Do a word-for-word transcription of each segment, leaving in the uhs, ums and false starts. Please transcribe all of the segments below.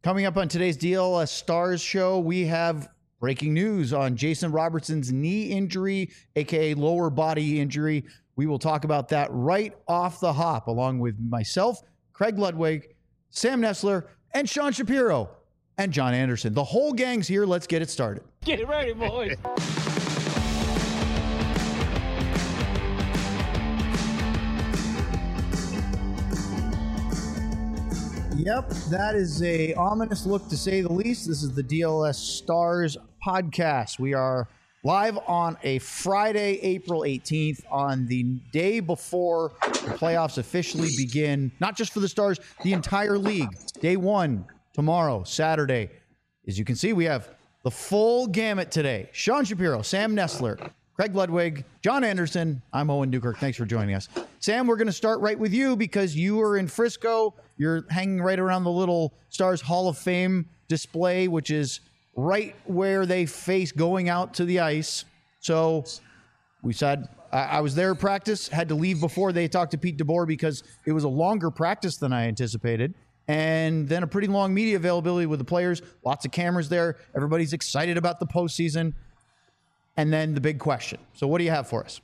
Coming up on today's D L S Stars show, we have breaking news on Jason Robertson's knee injury, aka lower body injury. We will talk about that right off the hop, along with myself, Craig Ludwig, Sam Nestler, and Sean Shapiro, and John Anderson. The whole gang's here. Let's get it started. Get ready, boys. Yep, that is a ominous look to say the least. This is the D L S Stars podcast. We are live on a Friday, April eighteenth, on the day before the playoffs officially begin. Not just for the Stars, the entire league. Day one, tomorrow, Saturday. As you can see, we have the full gamut today. Sean Shapiro, Sam Nestler, Craig Ludwig, John Anderson. I'm Owen Newkirk. Thanks for joining us. Sam, we're going to start right with you because you are in Frisco. You're hanging right around the little Stars Hall of Fame display, which is right where they face going out to the ice. So we said, I, I was there at practice, had to leave before they talked to Pete DeBoer because it was a longer practice than I anticipated. And then a pretty long media availability with the players, lots of cameras there. Everybody's excited about the postseason. And then the big question. So what do you have for us?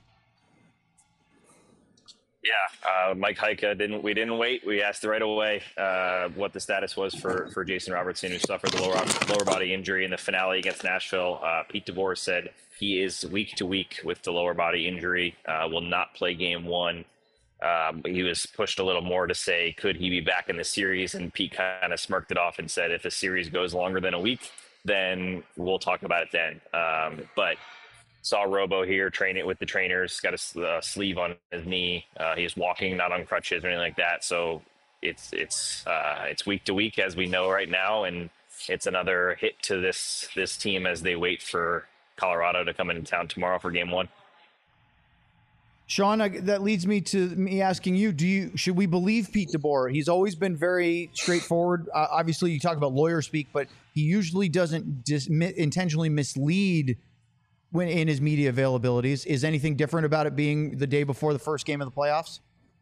Yeah, uh, Mike Heika didn't. We didn't wait. We asked right away uh, what the status was for, for Jason Robertson, who suffered the lower lower body injury in the finale against Nashville. Uh, Pete DeBoer said he is week to week with the lower body injury. Uh, will not play game one. Um, he was pushed a little more to say, could he be back in the series? And Pete kind of smirked it off and said, if the series goes longer than a week, then we'll talk about it then. Um, but saw Robo here, train it with the trainers, got a uh, sleeve on his knee. Uh, he's walking, not on crutches or anything like that. So it's it's uh, it's week to week, as we know right now, and it's another hit to this this team as they wait for Colorado to come into town tomorrow for game one. Sean, I, that leads me to me asking you: Do you should we believe Pete DeBoer? He's always been very straightforward. Uh, obviously, you talk about lawyer speak, but he usually doesn't dis- intentionally mislead when in his media availabilities. Is anything different about it being the day before the first game of the playoffs?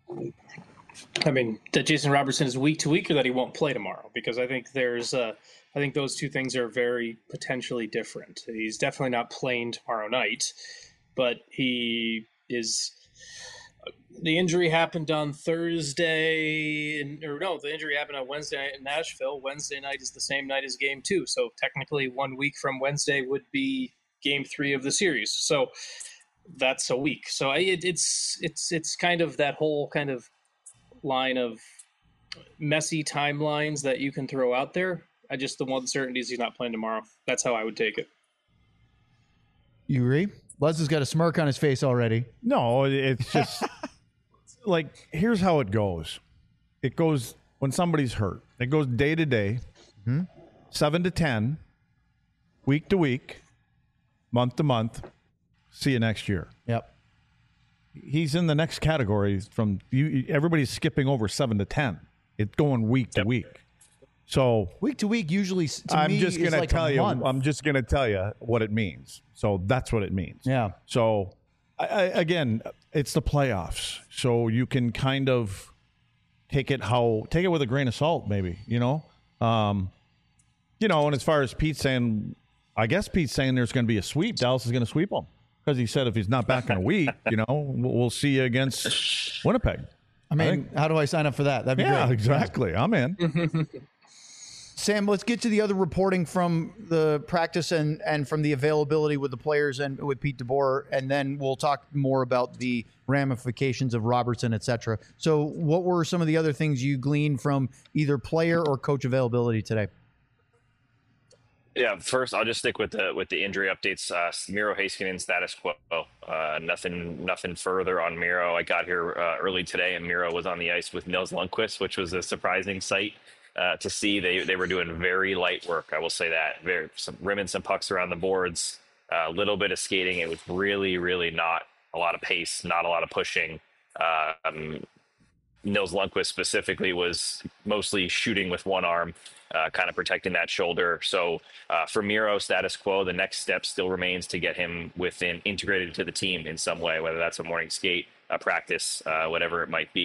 I mean, that Jason Robertson is week to week, or that he won't play tomorrow? Because I think there's, uh, I think those two things are very potentially different. He's definitely not playing tomorrow night, but he is. The injury happened on Thursday, and, or no, the injury happened on Wednesday night in Nashville. Wednesday night is the same night as game two, so technically one week from Wednesday would be game three of the series. So that's a week. So I, it, it's it's it's kind of that whole kind of line of messy timelines that you can throw out there. I just, the one certainty is he's not playing tomorrow. That's how I would take it. You agree? Les has got a smirk on his face already. No, it's just like, here's how it goes. It goes when somebody's hurt. It goes day to day, mm-hmm. seven to ten, week to week, month to month. See you next year. Yep. He's in the next category from you. Everybody's skipping over seven to ten. It's going week to Yep. week. So week to week usually to I'm me just is gonna like tell a you. month. I'm just gonna tell you what it means. So that's what it means. Yeah. So I, I, again, it's the playoffs, so you can kind of take it how take it with a grain of salt, maybe. You know, um, you know. And as far as Pete saying, I guess Pete's saying there's going to be a sweep. Dallas is going to sweep them because he said if he's not back in a week, you know, we'll, we'll see you against Winnipeg. I mean, I think, how do I sign up for that? That'd be yeah, great. exactly. I'm in. Sam, let's get to the other reporting from the practice and, and from the availability with the players and with Pete DeBoer, and then we'll talk more about the ramifications of Robertson, et cetera. So what were some of the other things you gleaned from either player or coach availability today? Yeah, first I'll just stick with the with the injury updates. Uh, Miro Heiskanen status quo. Uh, nothing nothing further on Miro. I got here uh, early today, and Miro was on the ice with Nils Lundkvist, which was a surprising sight uh, to see. They they were doing very light work. I will say that. Very some rimming some pucks around the boards. A uh, little bit of skating. It was really really not a lot of pace, not a lot of pushing. Uh, um, Nils Lundkvist specifically was mostly shooting with one arm, uh, kind of protecting that shoulder. So uh, for Miro, status quo, the next step still remains to get him within integrated to the team in some way, whether that's a morning skate, a practice, uh, whatever it might be.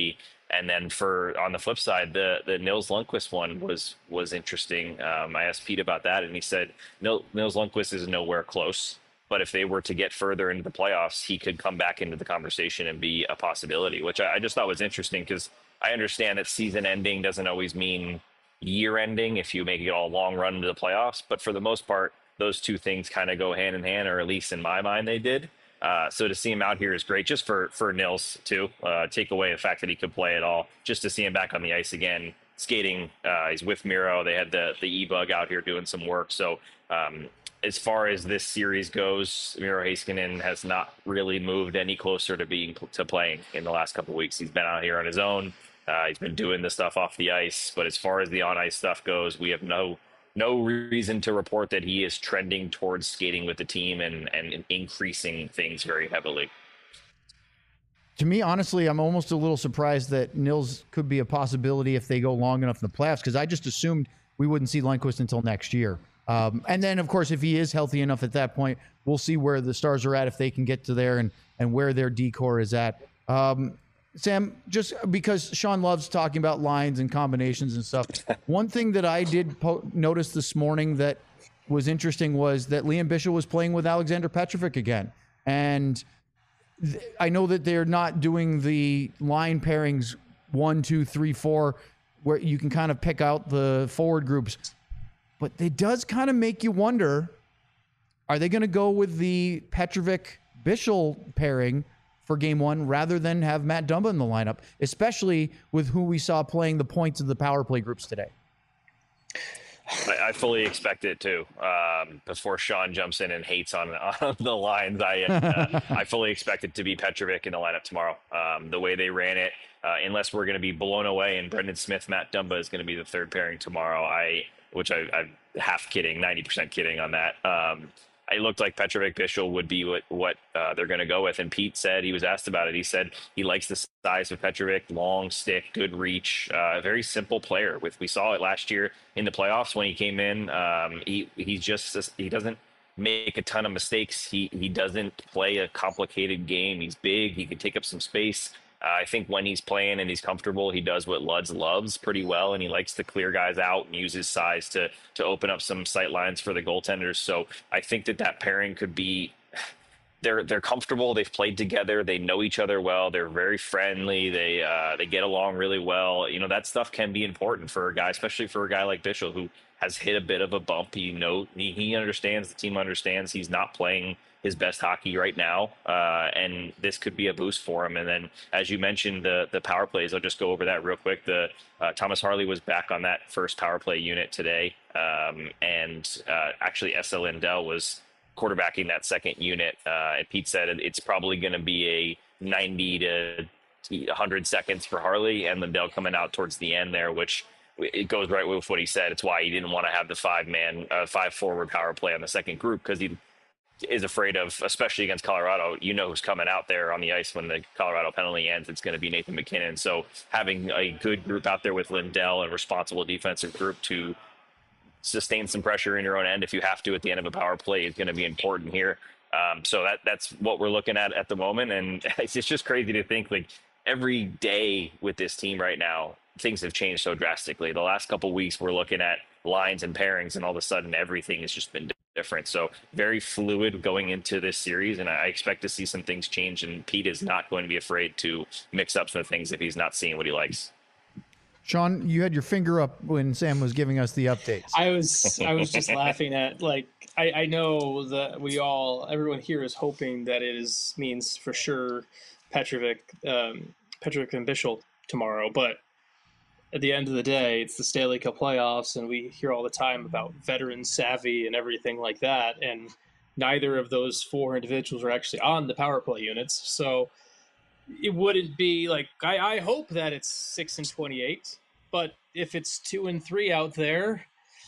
And then for on the flip side, the the Nils Lundqvist one was was interesting. Um, I asked Pete about that, and he said Nils, Nils Lundqvist is nowhere close. But if they were to get further into the playoffs, he could come back into the conversation and be a possibility, which I, I just thought was interesting because I understand that season ending doesn't always mean year ending if you make it all long run into the playoffs. But for the most part, those two things kind of go hand in hand, or at least in my mind, they did. Uh, so to see him out here is great, just for for Nils too. Uh, take away the fact that he could play at all, just to see him back on the ice again, skating. Uh, he's with Miro. They had the the E-Bug out here doing some work. So um, as far as this series goes, Miro Heiskanen has not really moved any closer to being to playing in the last couple of weeks. He's been out here on his own. Uh, he's been doing the stuff off the ice, but as far as the on ice stuff goes, we have no. No reason to report that he is trending towards skating with the team and, and increasing things very heavily. To me, honestly, I'm almost a little surprised that Nils could be a possibility if they go long enough in the playoffs, because I just assumed we wouldn't see Lundqvist until next year. Um, and then, of course, if he is healthy enough at that point, we'll see where the Stars are at, if they can get to there, and, and where their D-core is at. Um, Sam, just because Sean loves talking about lines and combinations and stuff, one thing that I did po- notice this morning that was interesting was that Liam Bichsel was playing with Alexander Petrovic again. And th- I know that they're not doing the line pairings one, two, three, four, where you can kind of pick out the forward groups. But it does kind of make you wonder, are they going to go with the Petrovic-Bichsel pairing for game one rather than have Matt Dumba in the lineup, especially with who we saw playing the points of the power play groups today? I, I fully expect it too. Um, before Sean jumps in and hates on, on the lines, I uh, I fully expect it to be Petrovic in the lineup tomorrow. Um, the way they ran it, uh, unless we're going to be blown away and Brendan Smith, Matt Dumba is going to be the third pairing tomorrow. I, which I, I'm half kidding, ninety percent kidding on that. Um, It looked like Petrovic Bichsel would be what, what uh, they're going to go with. And Pete said, he was asked about it. He said he likes the size of Petrovic, long stick, good reach, uh, a very simple player. With we saw it last year in the playoffs when he came in. Um, he he just he doesn't make a ton of mistakes. He he doesn't play a complicated game. He's big. He can take up some space. Uh, I think when he's playing and he's comfortable, he does what Luds loves pretty well, and he likes to clear guys out and use his size to to open up some sight lines for the goaltenders. So I think that that pairing could be they're they're comfortable. They've played together. They know each other well. They're very friendly. They uh, they get along really well. You know, that stuff can be important for a guy, especially for a guy like Bichsel, who has hit a bit of a bump. He know he, he understands. The team understands. He's not playing his best hockey right now, uh, and this could be a boost for him. And then, as you mentioned, the the power plays, I'll just go over that real quick. The uh, Thomas Harley was back on that first power play unit today, um, and uh, actually Esa Lindell was quarterbacking that second unit. Uh, and Pete said it's probably going to be a ninety to one hundred seconds for Harley, and Lindell coming out towards the end there, which it goes right with what he said. It's why he didn't want to have the five man, uh, five forward power play on the second group, because he is afraid of, especially against Colorado, you know who's coming out there on the ice when the Colorado penalty ends. It's going to be Nathan MacKinnon. So having a good group out there with Lindell and responsible defensive group to sustain some pressure in your own end if you have to at the end of a power play is going to be important here. Um, so that that's what we're looking at at the moment. And it's, it's just crazy to think, like, every day with this team right now, things have changed so drastically. The last couple of weeks, we're looking at lines and pairings, and all of a sudden everything has just been different. So very fluid going into this series, and I expect to see some things change, and Pete is not going to be afraid to mix up some things if he's not seeing what he likes. Sean, you had your finger up when Sam was giving us the updates. I was I was just laughing at, like, I, I know that we all, everyone here is hoping that it is means for sure Petrovic, um, Petrovic and Bichsel tomorrow, but at the end of the day, it's the Stanley Cup playoffs, and we hear all the time about veteran savvy and everything like that, and neither of those four individuals are actually on the power play units, so it wouldn't be like, I, I hope that it's six and twenty-eight, but if it's two and three out there,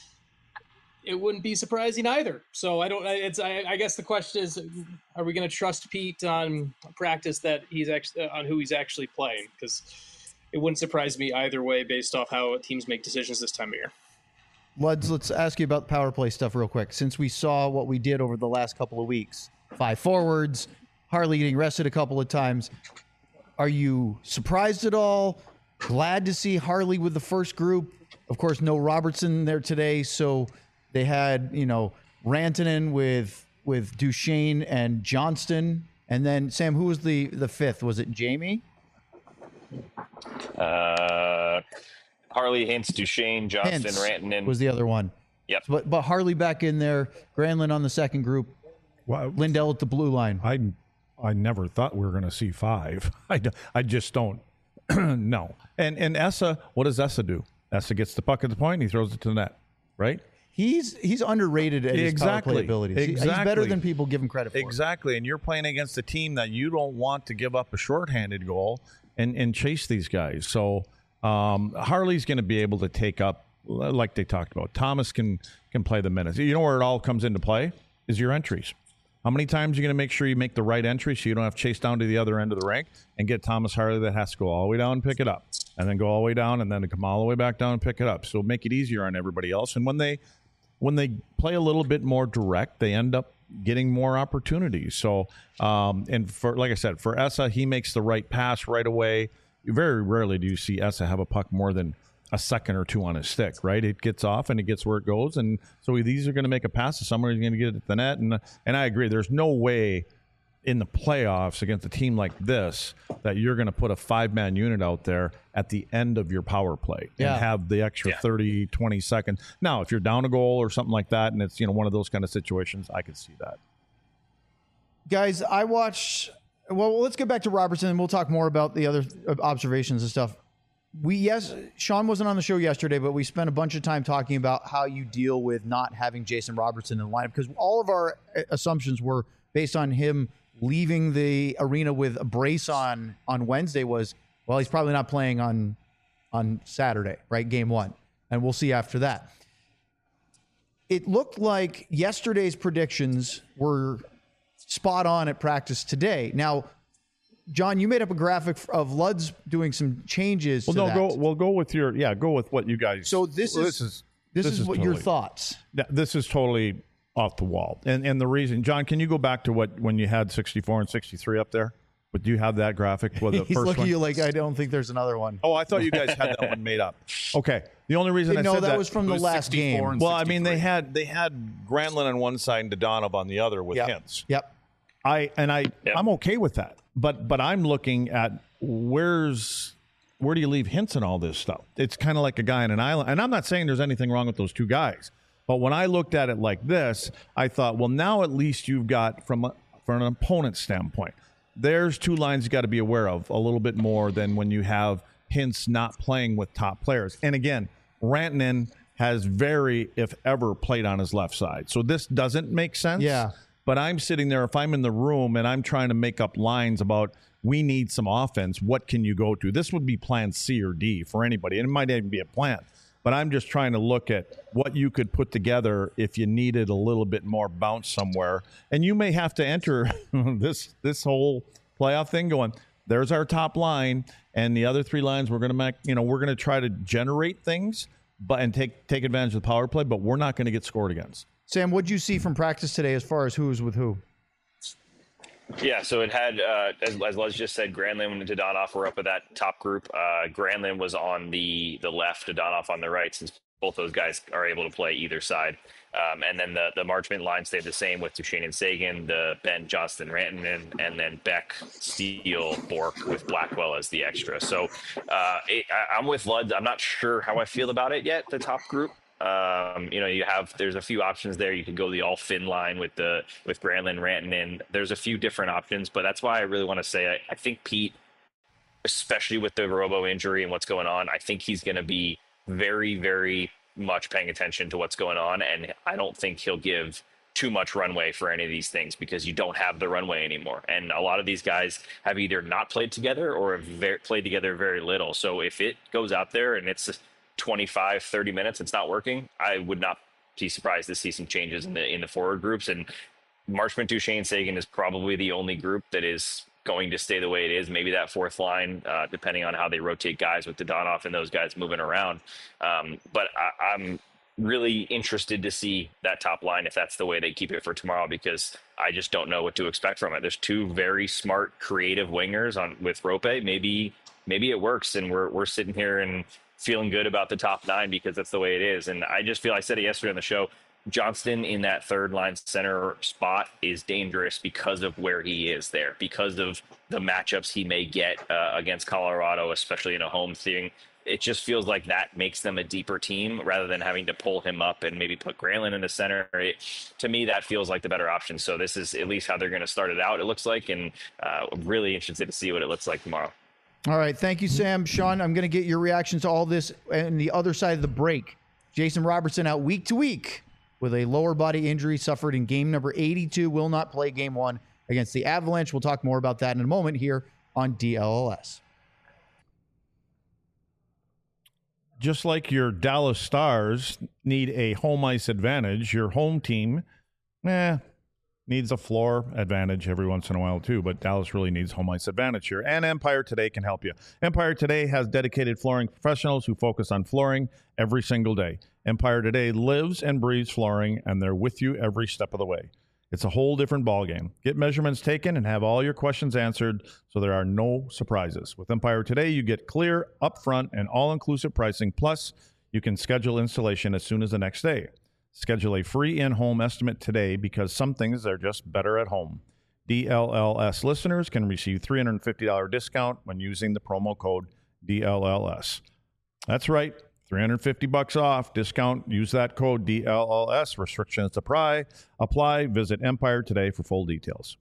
it wouldn't be surprising either. So I don't, it's, I, I guess the question is, are we going to trust Pete on practice that he's actually, on who he's actually playing? Because it wouldn't surprise me either way based off how teams make decisions this time of year. Luds, let's ask you about power play stuff real quick. Since we saw what we did over the last couple of weeks, five forwards, Harley getting rested a couple of times, are you surprised at all? Glad to see Harley with the first group. Of course, no Robertson there today, so they had, you know, Rantanen with with Duchesne and Johnston. And then, Sam, who was the, the fifth? Was it Jamie? Uh, Harley, Hintz, Duchesne, Johnston, Hintz Rantanen. was the other one. Yep. But, but Harley back in there, Granlund on the second group, Well, Lindell at the blue line. I I never thought we were going to see five. I, d- I just don't. No. And and Essa, what does Essa do? Essa gets the puck at the point and he throws it to the net, right? He's he's underrated at his Exactly. power play abilities. He- He's Exactly. better than people give him credit for. Exactly. And you're playing against a team that you don't want to give up a shorthanded goal and, and chase these guys. So um, Harley's going to be able to take up, like they talked about. Thomas can can play the minutes. You know where it all comes into play is your entries. How many times are you going to make sure you make the right entry so you don't have to chase down to the other end of the rink and get Thomas Harley that has to go all the way down and pick it up, and then go all the way down and then come all the way back down and pick it up. So make it easier on everybody else. And when they when they play a little bit more direct, they end up getting more opportunities. So, um, and for like I said, for Essa, he makes the right pass right away. Very rarely do you see Essa have a puck more than a second or two on his stick, right? It gets off and it gets where it goes. And so these are going to make a pass to someone who's going to get it at the net. And, and I agree, there's no way in the playoffs against a team like this that you're going to put a five-man unit out there at the end of your power play Yeah. and have the extra Yeah. thirty, twenty seconds. Now, if you're down a goal or something like that and it's, you know, one of those kind of situations, I could see that. Guys, I watched. Well, let's get back to Robertson, and we'll talk more about the other observations and stuff. We yes, Sean wasn't on the show yesterday, but we spent a bunch of time talking about how you deal with not having Jason Robertson in the lineup, because all of our assumptions were based on him leaving the arena with a brace on on Wednesday. Was well, he's probably not playing on on Saturday, right? Game one, and we'll see after that. It looked like yesterday's predictions were spot on at practice today. Now, John, you made up a graphic of Ludd's doing some changes. Well, to no, that. go. We'll go with your. Yeah, go with what you guys. So this well, is this is this, is, what your totally- thoughts. th- This is totally off the wall, and and the reason, John, can you go back to what when you had sixty-four and sixty-three up there? But do you have that graphic? Well, the He's first looking one? at you like I don't think there's another one. Oh, I thought you guys had that one made up. Okay, the only reason I no, said that, that was from the was last sixty-four game. and well, I mean they sixty-three. had they had Granlund on one side and Dodonov on the other with Yep. Hintz. Yep. I and I Yep. I'm okay with that. But but I'm looking at where's where do you leave Hintz and all this stuff? It's kind of like a guy on an island. And I'm not saying there's anything wrong with those two guys. But when I looked at it like this, I thought, well, now at least you've got from a, from an opponent standpoint, there's two lines you got to be aware of a little bit more than when you have Hintz not playing with top players. And again, Rantanen has very, if ever, played on his left side. So this doesn't make sense. Yeah. But I'm sitting there, if I'm in the room and I'm trying to make up lines about we need some offense, what can you go to? This would be plan C or D for anybody. And it might even be a plan. But I'm just trying to look at what you could put together if you needed a little bit more bounce somewhere. And you may have to enter this this whole playoff thing going, there's our top line, and the other three lines we're gonna make, you know, we're gonna try to generate things but and take take advantage of the power play, but we're not gonna get scored against. Sam, what'd you see from practice today as far as who's with who? Yeah, so it had, uh, as, as Les just said, Granlund and Dodonov were up at that top group. Uh, Granlund was on the the left, Dodonov on the right, since both those guys are able to play either side. Um, and then the, the Marchment line stayed the same with Duchesne and Sagan, the Ben, Johnston, Rantanen, and then Beck, Steele, Bork with Blackwell as the extra. So uh, it, I, I'm with Ludd. I'm not sure how I feel about it yet, the top group. Um, you know, you have there's a few options there. You could go the all Finn line with the with Granlund, Rantanen. There's a few different options, but that's why I really want to say I, I think Pete, especially with the Robo injury and what's going on, I think he's going to be very, very much paying attention to what's going on, and I don't think he'll give too much runway for any of these things because you don't have the runway anymore. And a lot of these guys have either not played together or have very, played together very little. So if it goes out there and it's twenty-five, thirty minutes, it's not working, I would not be surprised to see some changes in the in the forward groups. And Marchment, Duchesne, Sagan is probably the only group that is going to stay the way it is. Maybe that fourth line, uh, depending on how they rotate guys with Dodonov and those guys moving around. Um, but I, I'm really interested to see that top line if that's the way they keep it for tomorrow, because I just don't know what to expect from it. There's two very smart, creative wingers on with Rope. Maybe maybe it works, and we're we're sitting here and feeling good about the top nine because that's the way it is. And I just feel, I said it yesterday on the show, Johnston in that third line center spot is dangerous because of where he is there, because of the matchups he may get uh, against Colorado, especially in a home thing. It just feels like that makes them a deeper team rather than having to pull him up and maybe put Granlund in the center. It, to me, that feels like the better option. So this is at least how they're going to start it out, it looks like, and uh, I'm really interested to see what it looks like tomorrow. All right. Thank you, Sam. Sean, I'm going to get your reactions to all this and the other side of the break. Jason Robertson out week to week with a lower body injury suffered in game number eighty-two, will not play game one against the Avalanche. We'll talk more about that in a moment here on D L L S. Just like your Dallas Stars need a home ice advantage, your home team, eh, needs a floor advantage every once in a while too, but Dallas really needs home ice advantage here. And Empire Today can help you. Empire Today has dedicated flooring professionals who focus on flooring every single day. Empire Today lives and breathes flooring, and they're with you every step of the way. It's a whole different ballgame. Get measurements taken and have all your questions answered so there are no surprises. With Empire Today, you get clear, upfront, and all-inclusive pricing. Plus, you can schedule installation as soon as the next day. Schedule a free in-home estimate today because some things are just better at home. D L L S listeners can receive three hundred fifty dollars discount when using the promo code D L L S. That's right. three hundred fifty bucks off discount. Use that code D L L S. Restrictions apply. Apply. Visit Empire Today for full details.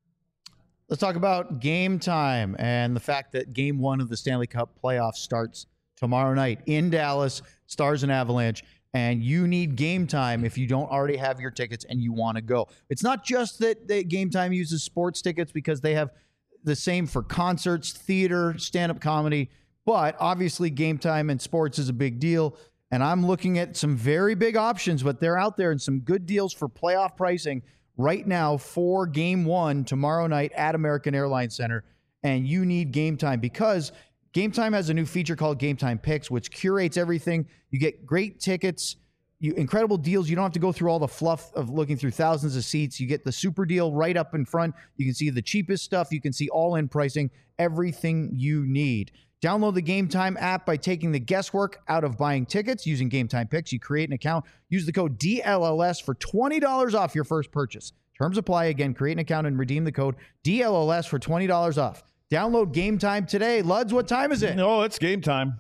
Let's talk about game time and the fact that game one of the Stanley Cup playoffs starts tomorrow night in Dallas, Stars and Avalanche. And you need game time if you don't already have your tickets and you want to go. It's not just that, that Game Time uses sports tickets, because they have the same for concerts, theater, stand-up comedy. But obviously, Game Time and sports is a big deal. And I'm looking at some very big options, but they're out there and some good deals for playoff pricing right now for game one tomorrow night at American Airlines Center. And you need Game Time because Game Time has a new feature called Game Time Picks, which curates everything. You get great tickets, you incredible deals. You don't have to go through all the fluff of looking through thousands of seats. You get the super deal right up in front. You can see the cheapest stuff. You can see all-in pricing, everything you need. Download the Game Time app by taking the guesswork out of buying tickets using Game Time Picks. You create an account. Use the code D L L S for twenty dollars off your first purchase. Terms apply. Again, create an account and redeem the code D L L S for twenty dollars off. Download Game Time today. Luds, what time is it? No, it's game time.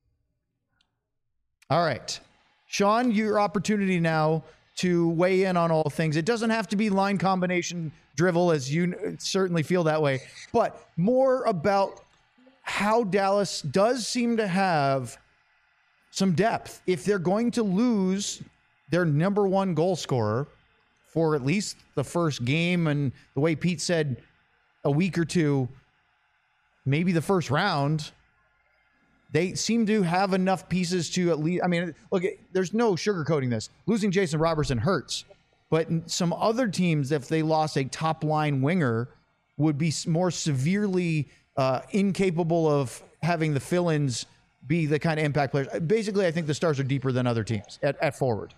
All right. Sean, your opportunity now to weigh in on all things. It doesn't have to be line combination drivel, as you certainly feel that way, but more about how Dallas does seem to have some depth. If they're going to lose their number one goal scorer for at least the first game, and the way Pete said, a week or two, maybe the first round, they seem to have enough pieces to at least, I mean, look, there's no sugarcoating this. Losing Jason Robertson hurts, but some other teams, if they lost a top line winger, would be more severely uh, incapable of having the fill-ins be the kind of impact players. Basically, I think the Stars are deeper than other teams at, at forward.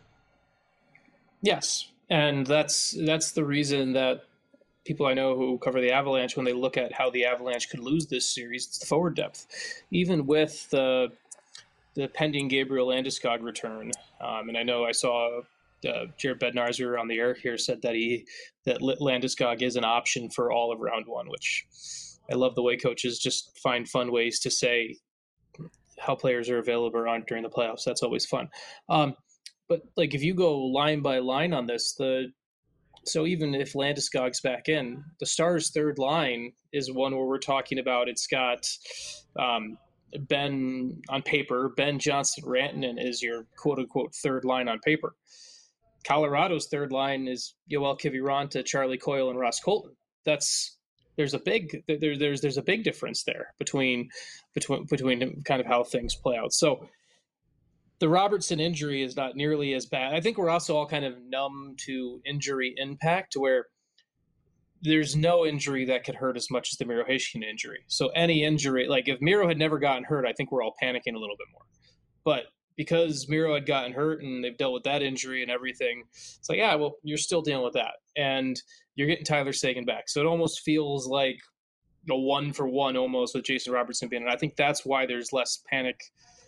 Yes. And that's, that's the reason that people I know who cover the Avalanche, when they look at how the Avalanche could lose this series, it's the forward depth. Even with the the pending Gabriel Landeskog return, um, and I know I saw uh, Jared Bednarzer on the air here said that he that Landeskog is an option for all of round one, which I love the way coaches just find fun ways to say how players are available or aren't during the playoffs. That's always fun. Um, but like if you go line by line on this, the So even if Landeskog's back in, the Stars' third line is one where we're talking about it's got um, Ben on paper. Ben Johnson Rantanen is your quote-unquote third line on paper. Colorado's third line is Yoel Kiviranta, Charlie Coyle, and Ross Colton. That's there's a big there, there's there's a big difference there between between between kind of how things play out. So the Robertson injury is not nearly as bad. I think we're also all kind of numb to injury impact, where there's no injury that could hurt as much as the Miro Heiskanen injury. So any injury, like if Miro had never gotten hurt, I think we're all panicking a little bit more. But because Miro had gotten hurt and they've dealt with that injury and everything, it's like, yeah, well, you're still dealing with that. And you're getting Tyler Seguin back. So it almost feels like you know, one for one almost with Jason Robertson being, and I think that's why there's less panic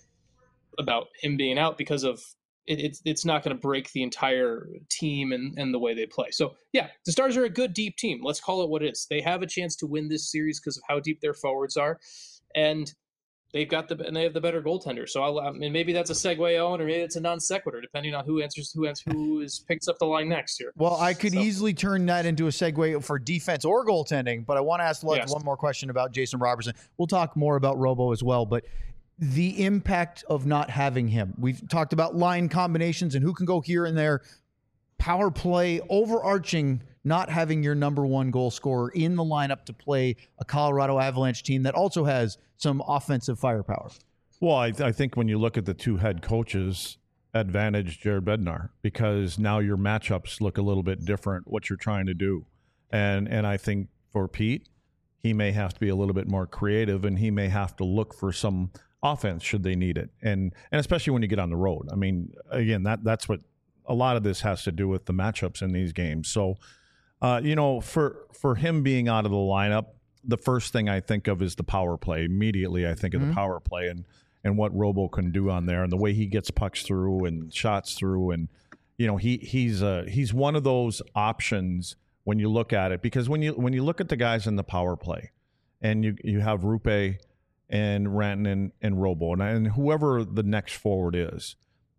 about him being out, because of it, it's it's not going to break the entire team and, and the way they play. So yeah, the Stars are a good deep team. Let's call it what it is. They have a chance to win this series because of how deep their forwards are, and they've got the and they have the better goaltender. So I'll, I mean, maybe that's a segue on, or maybe it's a non sequitur, depending on who answers who answers, who is picks up the line next year. Well, I could so. easily turn that into a segue for defense or goaltending, but I want to ask Lutz Yes. one more question about Jason Robertson. We'll talk more about Robo as well, but the impact of not having him. We've talked about line combinations and who can go here and there. Power play, overarching, not having your number one goal scorer in the lineup to play a Colorado Avalanche team that also has some offensive firepower. Well, I, I think when you look at the two head coaches, advantage Jared Bednar, because now your matchups look a little bit different, what you're trying to do. And and I think for Pete, he may have to be a little bit more creative, and he may have to look for some offense should they need it. And and especially when you get on the road. I mean, again, that that's what a lot of this has to do with the matchups in these games. So, uh, you know, for for him being out of the lineup, the first thing I think of is the power play. Immediately, I think of mm-hmm. the power play and and what Robo can do on there, and the way he gets pucks through and shots through, and you know, he he's uh, he's one of those options when you look at it, because when you when you look at the guys in the power play, and you you have Rupe and Rantanen and, and Robo and, and whoever the next forward is,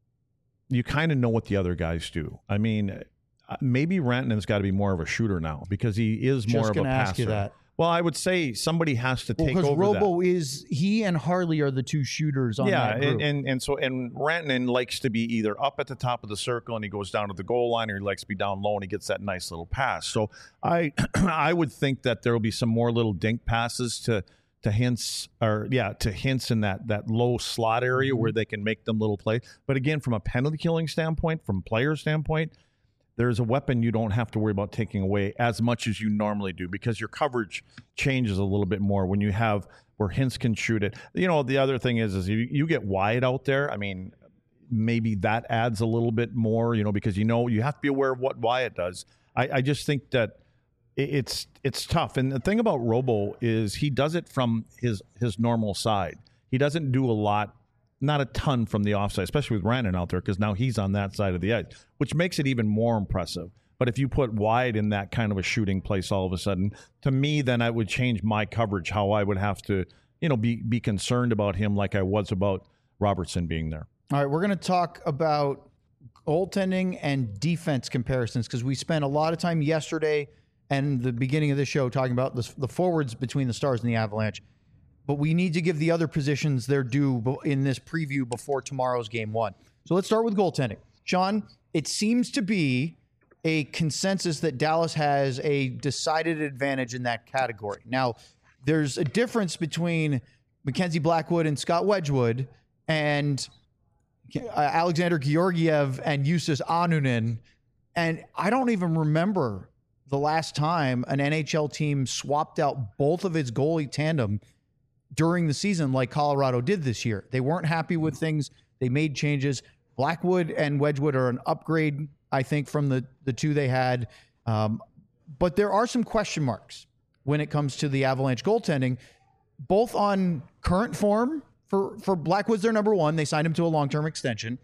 you kind of know what the other guys do. I mean, maybe Rantanen's got to be more of a shooter now because he is more Just of a passer. Ask you that. Well, I would say somebody has to take well, over Robo that. is he and Harley are the two shooters on yeah, that group. and, and and so and Rantanen likes to be either up at the top of the circle and he goes down to the goal line, or he likes to be down low and he gets that nice little pass. So I I would think that there will be some more little dink passes to to Hintz, or yeah, to Hintz in that that low slot area mm-hmm. where they can make them little play. But again, from a penalty killing standpoint, from player standpoint, there's a weapon you don't have to worry about taking away as much as you normally do, because your coverage changes a little bit more when you have where Hintz can shoot it. You know, the other thing is, is you, you get Wyatt out there. I mean, maybe that adds a little bit more, you know, because, you know, you have to be aware of what Wyatt does. I, I just think that it's it's tough. And the thing about Robo is he does it from his his normal side. He doesn't do a lot, not a ton from the offside, especially with Rantanen out there, because now he's on that side of the ice, which makes it even more impressive. But if you put Wyatt in that kind of a shooting place all of a sudden, to me, then I would change my coverage, how I would have to, you know, be be concerned about him like I was about Robertson being there. All right, we're going to talk about goaltending and defense comparisons, because we spent a lot of time yesterday and the beginning of the show talking about the, the forwards between the Stars and the Avalanche. But we need to give the other positions their due in this preview before tomorrow's game one. So let's start with goaltending. Sean, it seems to be a consensus that Dallas has a decided advantage in that category. Now, there's a difference between Mackenzie Blackwood and Scott Wedgwood and uh, Alexander Georgiev and Justus Anunen. And I don't even remember the last time an N H L team swapped out both of its goalie tandem during the season like Colorado did this year. They weren't happy with things. They made changes. Blackwood and Wedgwood are an upgrade, I think, from the, the two they had. Um, but there are some question marks when it comes to the Avalanche goaltending, both on current form. For, for Blackwood's their number one. They signed him to a long-term extension,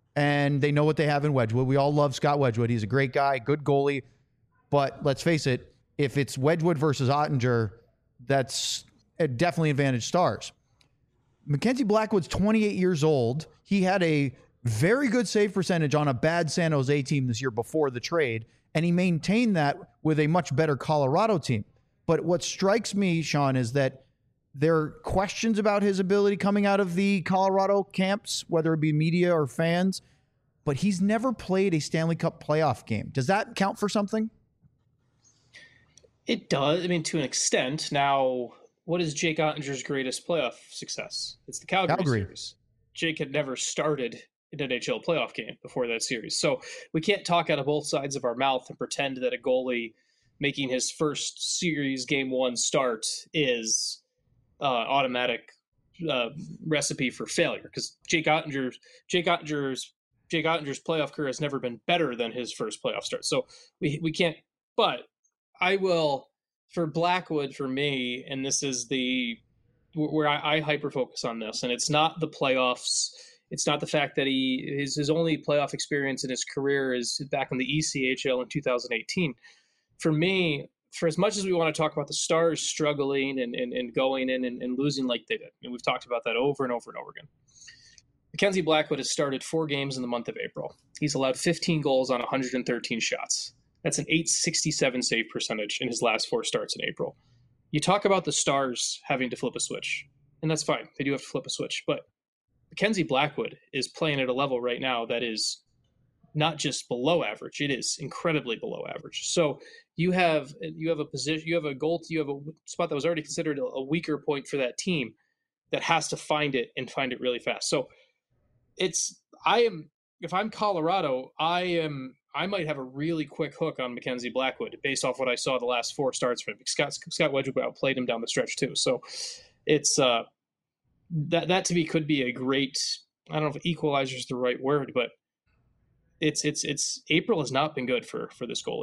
and they know what they have in Wedgwood. We all love Scott Wedgwood. He's a great guy, good goalie. But let's face it, if it's Wedgwood versus Ottinger, that's definitely advantage Stars. Mackenzie Blackwood's twenty-eight years old. He had a very good save percentage on a bad San Jose team this year before the trade, and he maintained that with a much better Colorado team. But what strikes me, Sean, is that there are questions about his ability coming out of the Colorado camps, whether it be media or fans, but he's never played a Stanley Cup playoff game. Does that count for something? It does. I mean, to an extent. Now, what is Jake Ottinger's greatest playoff success? It's the Calgary, Calgary. series. Jake had never started an N H L playoff game before that series. So we can't talk out of both sides of our mouth and pretend that a goalie making his first series game one start is uh, automatic uh, recipe for failure, because Jake Ottinger's Jake Ottinger's Jake Ottinger's playoff career has never been better than his first playoff start. So we we can't. But I will for Blackwood, for me, and this is the where I, I hyper focus on this, and it's not the playoffs. It's not the fact that he his his only playoff experience in his career is back in the E C H L in two thousand eighteen. For me, for as much as we want to talk about the Stars struggling and, and, and going in and, and losing like they did, and we've talked about that over and over and over again, Mackenzie Blackwood has started four games in the month of April. He's allowed fifteen goals on one hundred thirteen shots. That's an eight sixty-seven save percentage in his last four starts in April. You talk about the Stars having to flip a switch, and that's fine. They do have to flip a switch. But Mackenzie Blackwood is playing at a level right now that is not just below average. It is incredibly below average. So you have you have a position, you have a goal, you have a spot that was already considered a, a weaker point for that team that has to find it and find it really fast. So it's I am if I'm Colorado, I am I might have a really quick hook on Mackenzie Blackwood based off what I saw the last four starts for him. Scott Scott Wedgwood outplayed him down the stretch too. So it's uh, that that to me could be a great. I don't know if equalizer is the right word, but it's it's it's April has not been good for for this goalie.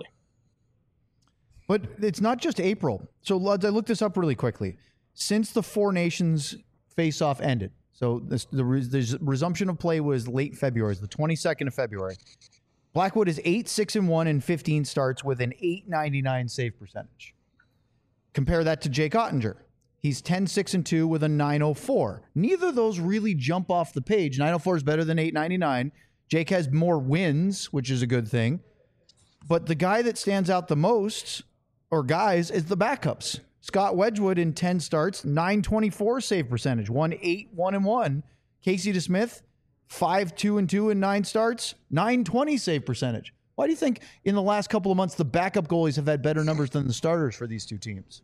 But it's not just April. So Luds, I looked this up really quickly. Since the Four Nations face-off ended, so this, the, the resumption of play was late February, the twenty-second of February. Blackwood is eight six and one in fifteen starts with an eight ninety-nine save percentage. Compare that to Jake Ottinger. He's ten six and two with a nine oh four. Neither of those really jump off the page. nine oh four is better than eight ninety-nine. Jake has more wins, which is a good thing. But the guy that stands out the most, or guys, is the backups. Scott Wedgwood in ten starts, nine twenty-four save percentage, one eight one and one. Casey DeSmith, five two and two in nine starts, nine twenty save percentage. Why do you think in the last couple of months the backup goalies have had better numbers than the starters for these two teams?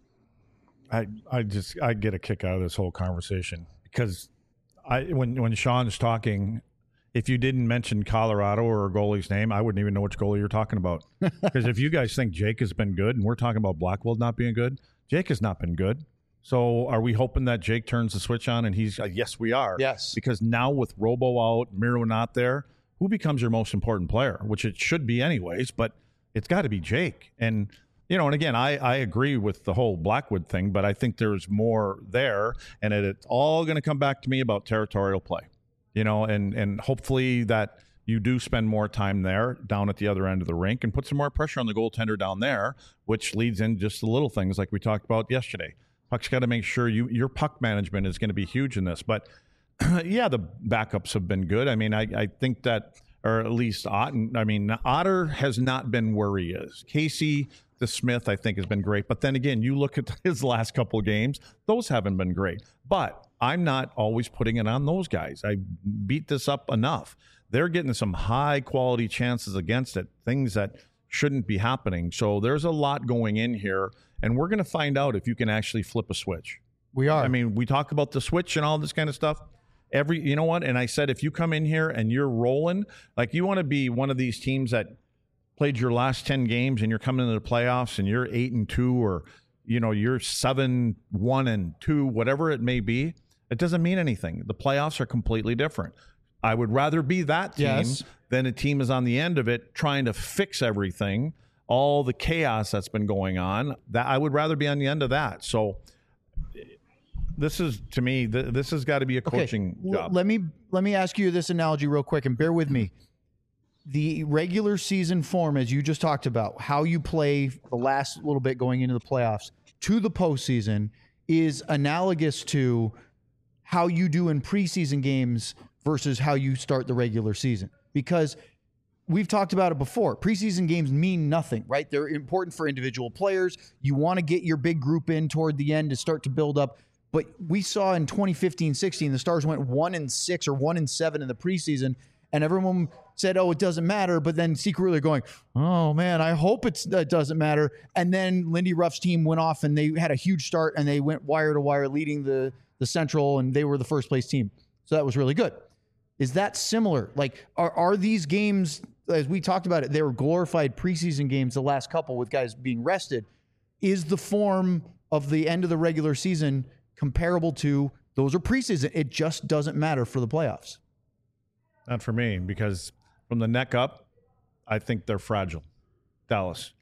I, I just I get a kick out of this whole conversation because I when when Sean's talking, if you didn't mention Colorado or a goalie's name, I wouldn't even know which goalie you're talking about. Because if you guys think Jake has been good and we're talking about Blackwood not being good, Jake has not been good. So are we hoping that Jake turns the switch on and he's uh, yes, we are. Yes. Because now with Robo out, Miro not there, who becomes your most important player? Which it should be anyways, but it's got to be Jake. And you know, and again, I, I agree with the whole Blackwood thing, but I think there's more there, and it, it's all going to come back to me about territorial play, you know, and, and hopefully that you do spend more time there down at the other end of the rink and put some more pressure on the goaltender down there, which leads in just the little things like we talked about yesterday. Puck's got to make sure you your puck management is going to be huge in this. But, yeah, the backups have been good. I mean, I, I think that, or at least Otten, I mean, Otter has not been where he is. Casey DeSmith, I think, has been great. But then again, you look at his last couple of games, those haven't been great. But I'm not always putting it on those guys. I beat this up enough. They're getting some high-quality chances against it, things that shouldn't be happening. So there's a lot going in here, and we're going to find out if you can actually flip a switch. We are. I mean, we talk about the switch and all this kind of stuff. Every, you know what? And I said, if you come in here and you're rolling, like you want to be one of these teams that played your last ten games and you're coming into the playoffs and you're eight and two, or, you know, you're seven, one and two, whatever it may be, it doesn't mean anything. The playoffs are completely different. I would rather be that team yes. than a team is on the end of it trying to fix everything, all the chaos that's been going on. That I would rather be on the end of that. So this is, to me, th- this has got to be a coaching okay. job. Let me let me ask you this analogy real quick, and bear with me. The regular season form, as you just talked about, how you play the last little bit going into the playoffs to the postseason, is analogous to how you do in preseason games versus how you start the regular season. Because we've talked about it before. Preseason games mean nothing, right? They're important for individual players. You want to get your big group in toward the end to start to build up. But we saw in twenty fifteen sixteen, the Stars went one and six or one and seven in the preseason, and everyone said, oh, it doesn't matter. But then secretly going, oh, man, I hope it's, it doesn't matter. And then Lindy Ruff's team went off, and they had a huge start, and they went wire to wire leading the, the Central, and they were the first place team. So that was really good. Is that similar? Like, are, are these games, as we talked about it, they were glorified preseason games the last couple with guys being rested. Is the form of the end of the regular season comparable to those are preseason? It just doesn't matter for the playoffs. Not for me, because from the neck up, I think they're fragile. Dallas.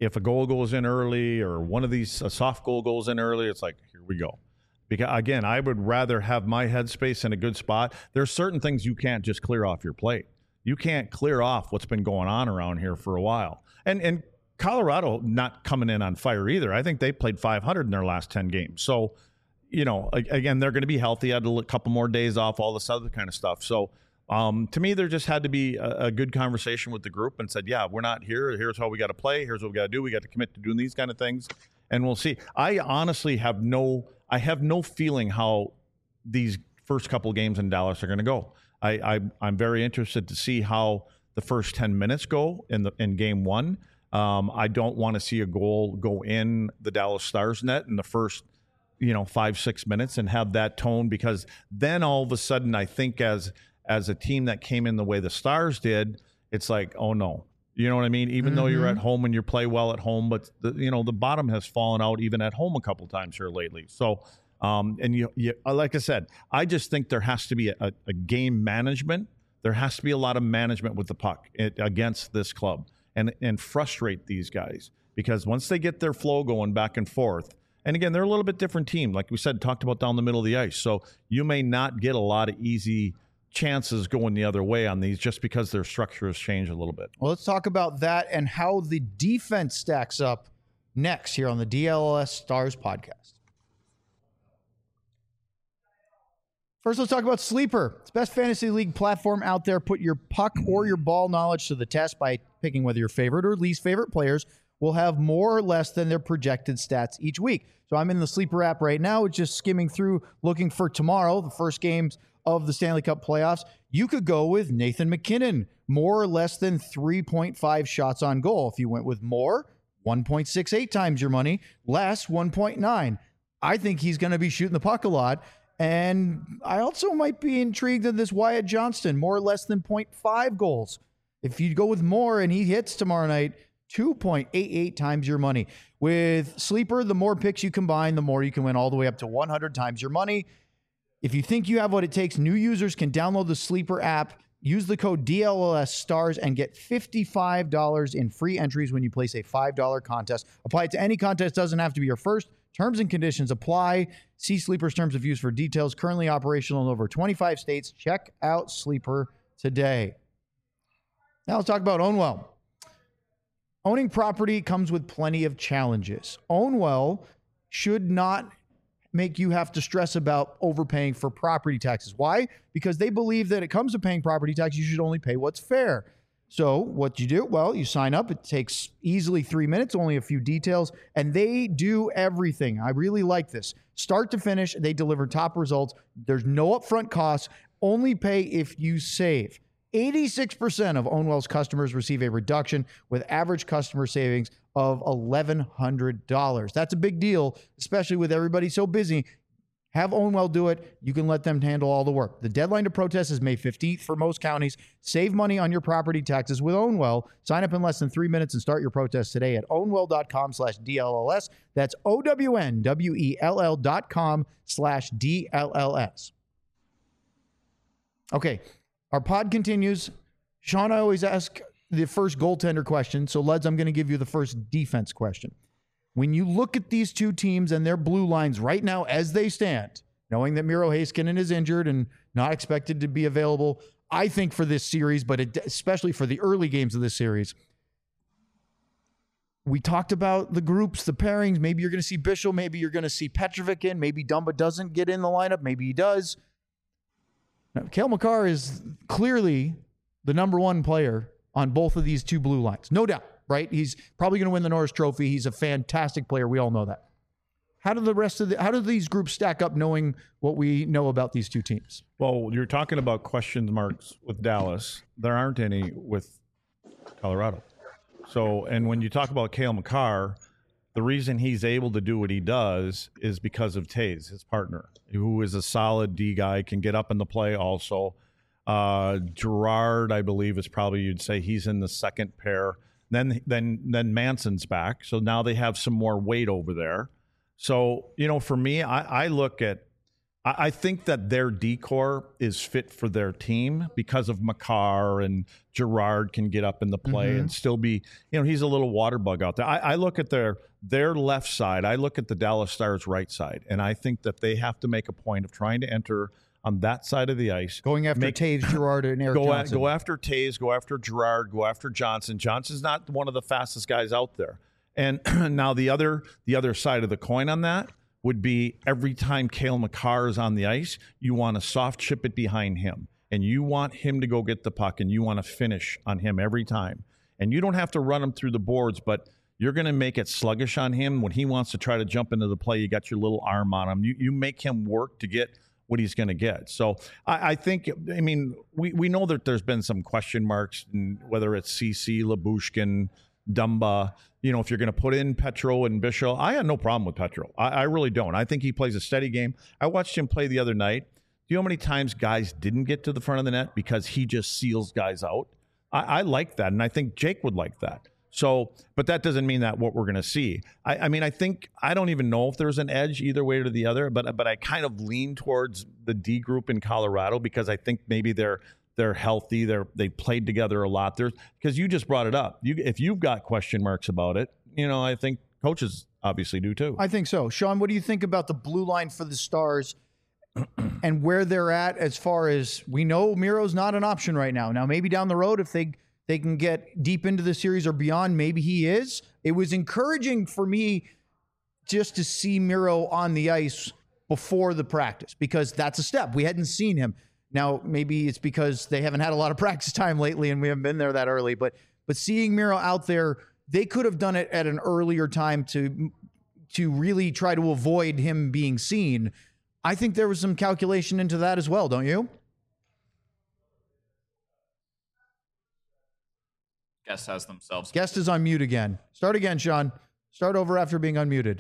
if a goal goes in early or one of these a soft goal goes in early, it's like, here we go. Because again, I would rather have my headspace in a good spot. There's certain things you can't just clear off your plate. You can't clear off what's been going on around here for a while. And and Colorado not coming in on fire either. I think they played five hundred in their last ten games. So, you know, again, they're going to be healthy. Had a couple more days off, all this other kind of stuff. So, um, to me, there just had to be a, a good conversation with the group and said, yeah, we're not here. Here's how we got to play. Here's what we got to do. We got to commit to doing these kind of things, and we'll see. I honestly have no, I have no feeling how these first couple of games in Dallas are going to go. I, I, I'm very interested to see how the first ten minutes go in the in game one. Um, I don't want to see a goal go in the Dallas Stars net in the first, you know, five, six minutes and have that tone, because then all of a sudden I think as as a team that came in the way the Stars did, it's like, oh no. You know what I mean? Even mm-hmm. though you're at home and you play well at home, but the, you know, the bottom has fallen out even at home a couple times here lately. So, um, and you, you, like I said, I just think there has to be a, a game management. There has to be a lot of management with the puck it, against this club. And and frustrate these guys, because once they get their flow going back and forth, and again, they're a little bit different team, like we said, talked about down the middle of the ice. So you may not get a lot of easy chances going the other way on these just because their structure has changed a little bit. Well, let's talk about that and how the defense stacks up next here on the D L S Stars podcast. First, let's talk about Sleeper. It's the best fantasy league platform out there. Put your puck or your ball knowledge to the test by picking whether your favorite or least favorite players will have more or less than their projected stats each week. So I'm in the Sleeper app right now, just skimming through, looking for tomorrow, the first games of the Stanley Cup playoffs. You could go with Nathan MacKinnon, more or less than three point five shots on goal. If you went with more, one point six eight times your money, less one point nine. I think he's going to be shooting the puck a lot. And I also might be intrigued in this Wyatt Johnston, more or less than zero point five goals. If you go with more and he hits tomorrow night, two point eight eight times your money. With Sleeper, the more picks you combine, the more you can win, all the way up to one hundred times your money. If you think you have what it takes, new users can download the Sleeper app, use the code D L L S STARS, and get fifty-five dollars in free entries when you place a five dollar contest. Apply it to any contest, doesn't have to be your first. Terms and conditions apply. See Sleeper's terms of use for details. Currently operational in over twenty-five states. Check out Sleeper today. Now let's talk about OwnWell. Owning property comes with plenty of challenges. OwnWell should not make you have to stress about overpaying for property taxes. Why? Because they believe that it comes to paying property tax, you should only pay what's fair. So what you do? Well, you sign up. It takes easily three minutes, only a few details, and they do everything. I really like this. Start to finish, they deliver top results. There's no upfront costs. Only pay if you save. eighty-six percent of OwnWell's customers receive a reduction, with average customer savings of eleven hundred dollars. That's a big deal, especially with everybody so busy. Have OwnWell do it. You can let them handle all the work. The deadline to protest is May fifteenth for most counties. Save money on your property taxes with OwnWell. Sign up in less than three minutes and start your protest today at ownwell.com slash DLLS. That's O-W-N-W-E-L-L dot com slash D-L-L-S. Okay, our pod continues. Sean, I always ask the first goaltender question. So, Leds, I'm going to give you the first defense question. When you look at these two teams and their blue lines right now as they stand, knowing that Miro Heiskanen is injured and not expected to be available, I think for this series, but it, especially for the early games of this series, we talked about the groups, the pairings. Maybe you're going to see Bischel. Maybe you're going to see Petrovic in. Maybe Dumba doesn't get in the lineup. Maybe he does. Now, Cale Makar is clearly the number one player on both of these two blue lines. No doubt. Right? He's probably going to win the Norris Trophy. He's a fantastic player. We all know that. How do the rest of the, how do these groups stack up knowing what we know about these two teams? Well, you're talking about question marks with Dallas. There aren't any with Colorado. So, and when you talk about Cale Makar, the reason he's able to do what he does is because of Taves, his partner, who is a solid D guy, can get up in the play also. Uh, Gerard, I believe, is probably, you'd say he's in the second pair. Then, then, then Manson's back. So now they have some more weight over there. So, you know, for me, I, I look at I, I think that their decor is fit for their team because of Makar, and Girard can get up in the play mm-hmm. and still be, you know, he's a little water bug out there. I, I look at their their left side. I look at the Dallas Stars right side, and I think that they have to make a point of trying to enter on that side of the ice. Going after make, Taves, Girard, and Erik go Johnson. At, go after Taves, go after Girard, go after Johnson. Johnson's not one of the fastest guys out there. And now the other the other side of the coin on that would be every time Cale Makar is on the ice, you want to soft chip it behind him. And you want him to go get the puck, and you want to finish on him every time. And you don't have to run him through the boards, but you're going to make it sluggish on him. When he wants to try to jump into the play, you got your little arm on him. You, you make him work to get what he's going to get. So I, I think, I mean, we, we know that there's been some question marks, whether it's C C, Lyubushkin, Dumba. You know, if you're going to put in Petro and Bishop, I had no problem with Petro. I, I really don't. I think he plays a steady game. I watched him play the other night. Do you know how many times guys didn't get to the front of the net because he just seals guys out? I, I like that, and I think Jake would like that. So, but that doesn't mean that what we're going to see. I, I mean, I think, I don't even know if there's an edge either way or the other, but but I kind of lean towards the D group in Colorado because I think maybe they're they're healthy. They're they played together a lot. There's because you just brought it up. You if you've got question marks about it, you know, I think coaches obviously do too. I think so. Sean, what do you think about the blue line for the Stars and where they're at as far as we know Miro's not an option right now. Now, maybe down the road, if they they can get deep into the series or beyond, maybe he is. It was encouraging for me just to see Miro on the ice before the practice because that's a step. We hadn't seen him. Now, maybe it's because they haven't had a lot of practice time lately and we haven't been there that early, but but seeing Miro out there, they could have done it at an earlier time to to really try to avoid him being seen. I think there was some calculation into that as well, don't you? Guest has themselves. Guest is on mute again. Start again, Sean. Start over after being unmuted.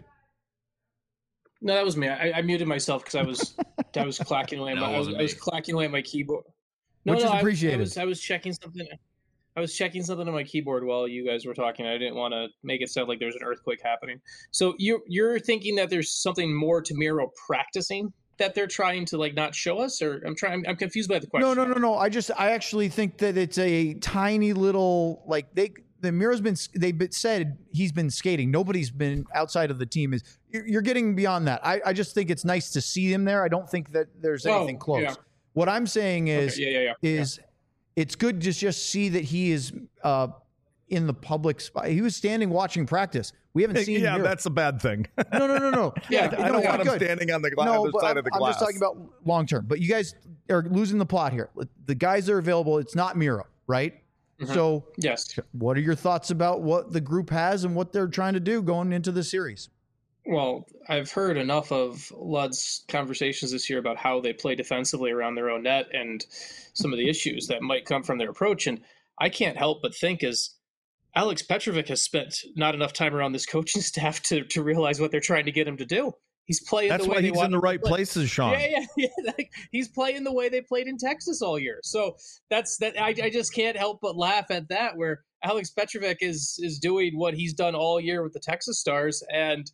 No, that was me. I, I muted myself because I was I was clacking away. No, my, I, was, I was clacking away at my keyboard. No, Which no, is appreciated. I, I was I was checking something. I was checking something on my keyboard while you guys were talking. I didn't want to make it sound like there's an earthquake happening. So you're you're thinking that there's something more to Miro practicing that they're trying to like not show us, or I'm trying. I'm confused by the question. No, no, no, no. I just I actually think that it's a tiny little like they. The Miro's been, they've been said he's been skating. Nobody's been outside of the team. Is you're getting beyond that. I, I just think it's nice to see him there. I don't think that there's anything oh, close. Yeah. What I'm saying is, okay, yeah, yeah, yeah. is yeah. It's good to just see that he is uh, in the public spot. He was standing watching practice. We haven't seen yeah, him. Yeah, that's a bad thing. no, no, no, no. Yeah, I, I don't no, want him good. standing on the, gla- no, on the side I'm, of the I'm glass. just talking about long term. But you guys are losing the plot here. The guys that are available, it's not Miro, right? Mm-hmm. So, yes. What are your thoughts about what the group has and what they're trying to do going into the series? Well, I've heard enough of Lud's conversations this year about how they play defensively around their own net and some of the issues that might come from their approach. And I can't help but think as Alex Petrovic has spent not enough time around this coaching staff to, to realize what they're trying to get him to do. He's playing That's the way why they he's want in the right play. places, Sean. Yeah, yeah, yeah. Like, he's playing the way they played in Texas all year. So that's that. I, I just can't help but laugh at that. Where Alex Petrovic is is doing what he's done all year with the Texas Stars, and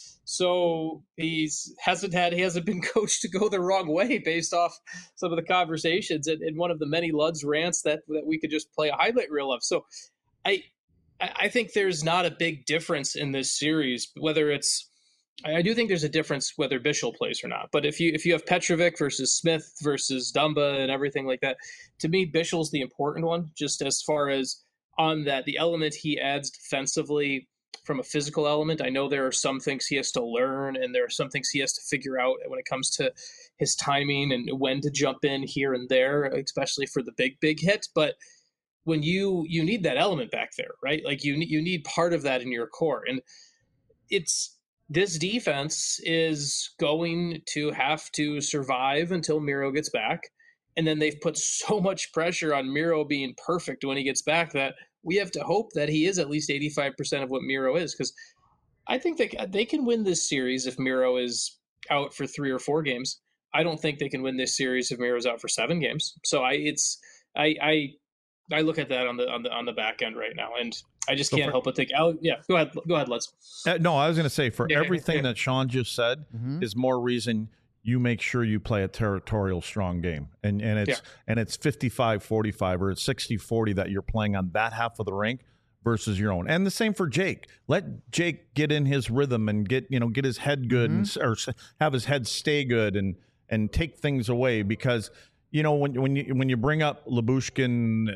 so he's hasn't had he hasn't been coached to go the wrong way based off some of the conversations and, and one of the many Lud's rants that that we could just play a highlight reel of. So I I think there's not a big difference in this series, whether it's. I do think there's a difference whether Bichel plays or not. But if you if you have Petrovic versus Smith versus Dumba and everything like that, to me, Bichel's the important one, just as far as on that, the element he adds defensively from a physical element. I know there are some things he has to learn and there are some things he has to figure out when it comes to his timing and when to jump in here and there, especially for the big, big hit. But when you you need that element back there, right? Like you you need part of that in your core. And it's this defense is going to have to survive until Miro gets back. And then they've put so much pressure on Miro being perfect when he gets back that we have to hope that he is at least eighty-five percent of what Miro is. Because I think they, they can win this series if Miro is out for three or four games. I don't think they can win this series if Miro's out for seven games. So I it's I I I look at that on the on the on the back end right now, and I just so can't for, help but think. I'll, yeah, go ahead, go ahead, let's. Uh, no, I was going to say for yeah, everything yeah. that Sean just said mm-hmm. is more reason you make sure you play a territorial strong game. And and it's yeah. and it's fifty-five forty-five or it's sixty forty that you're playing on that half of the rink versus your own. And the same for Jake. Let Jake get in his rhythm and get, you know, get his head good mm-hmm. and or have his head stay good and and take things away, because you know when when you when you bring up Lyubushkin,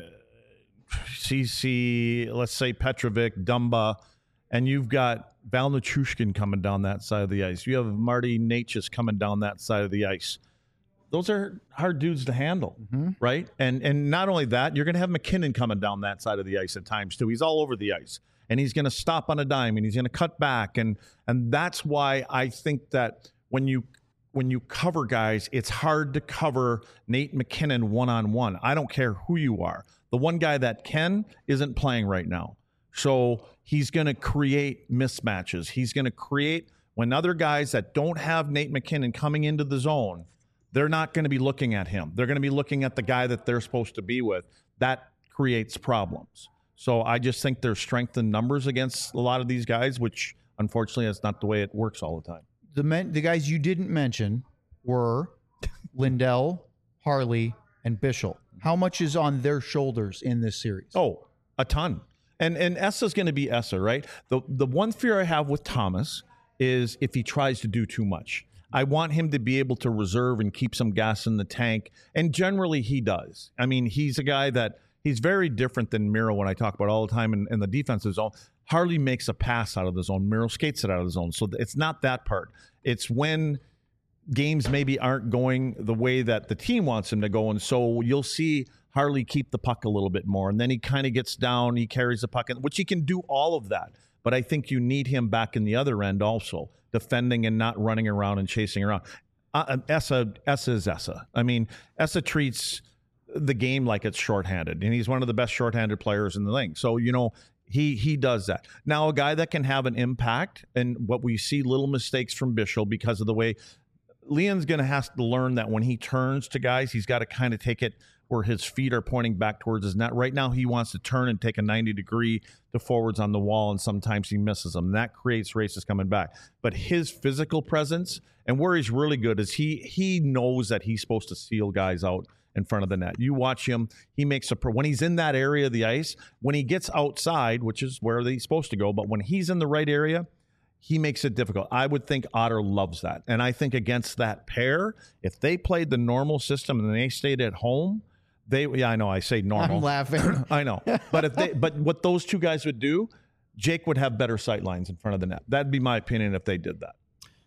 C C, let's say Petrovic, Dumba, and you've got Val Nichushkin coming down that side of the ice. You have Marty Necas coming down that side of the ice. Those are hard dudes to handle, mm-hmm. right? And and not only that, you're going to have McKinnon coming down that side of the ice at times too. He's all over the ice, and he's going to stop on a dime, and he's going to cut back, and and that's why I think that when you when you cover guys, it's hard to cover Nate McKinnon one on one. I don't care who you are. The one guy that can isn't playing right now. So he's going to create mismatches. He's going to create when other guys that don't have Nate McKinnon coming into the zone, they're not going to be looking at him. They're going to be looking at the guy that they're supposed to be with. That creates problems. So I just think there's strength in numbers against a lot of these guys, which unfortunately that's not the way it works all the time. The men, the guys you didn't mention were Lindell, Harley, and Bischel. How much is on their shoulders in this series? Oh, a ton. And and Essa's going to be Essa, right? The the one fear I have with Thomas is if he tries to do too much. I want him to be able to reserve and keep some gas in the tank. And generally he does. I mean, he's a guy that he's very different than Miro when I talk about all the time in, in the defensive zone. Harley makes a pass out of the zone. Miro skates it out of the zone. So it's not that part. It's when games maybe aren't going the way that the team wants him to go. And so you'll see Harley keep the puck a little bit more. And then he kind of gets down. He carries the puck, which he can do all of that. But I think you need him back in the other end also, defending and not running around and chasing around. Uh, Essa, Essa is Essa. I mean, Essa treats the game like it's shorthanded, and he's one of the best shorthanded players in the league. So, you know, he he does that. Now, a guy that can have an impact, and what we see little mistakes from Bischel because of the way Leon's going to have to learn that when he turns to guys, he's got to kind of take it where his feet are pointing back towards his net. Right now, he wants to turn and take a ninety degree to forwards on the wall, and sometimes he misses them. That creates races coming back. But his physical presence and where he's really good is he he knows that he's supposed to seal guys out in front of the net. You watch him, he makes a when he's in that area of the ice, when he gets outside, which is where he's supposed to go, but when he's in the right area, he makes it difficult. I would think Otter loves that. And I think against that pair, if they played the normal system and they stayed at home, they yeah, I know I say normal. I'm laughing. I know. But if they but what those two guys would do, Jake would have better sight lines in front of the net. That'd be my opinion if they did that.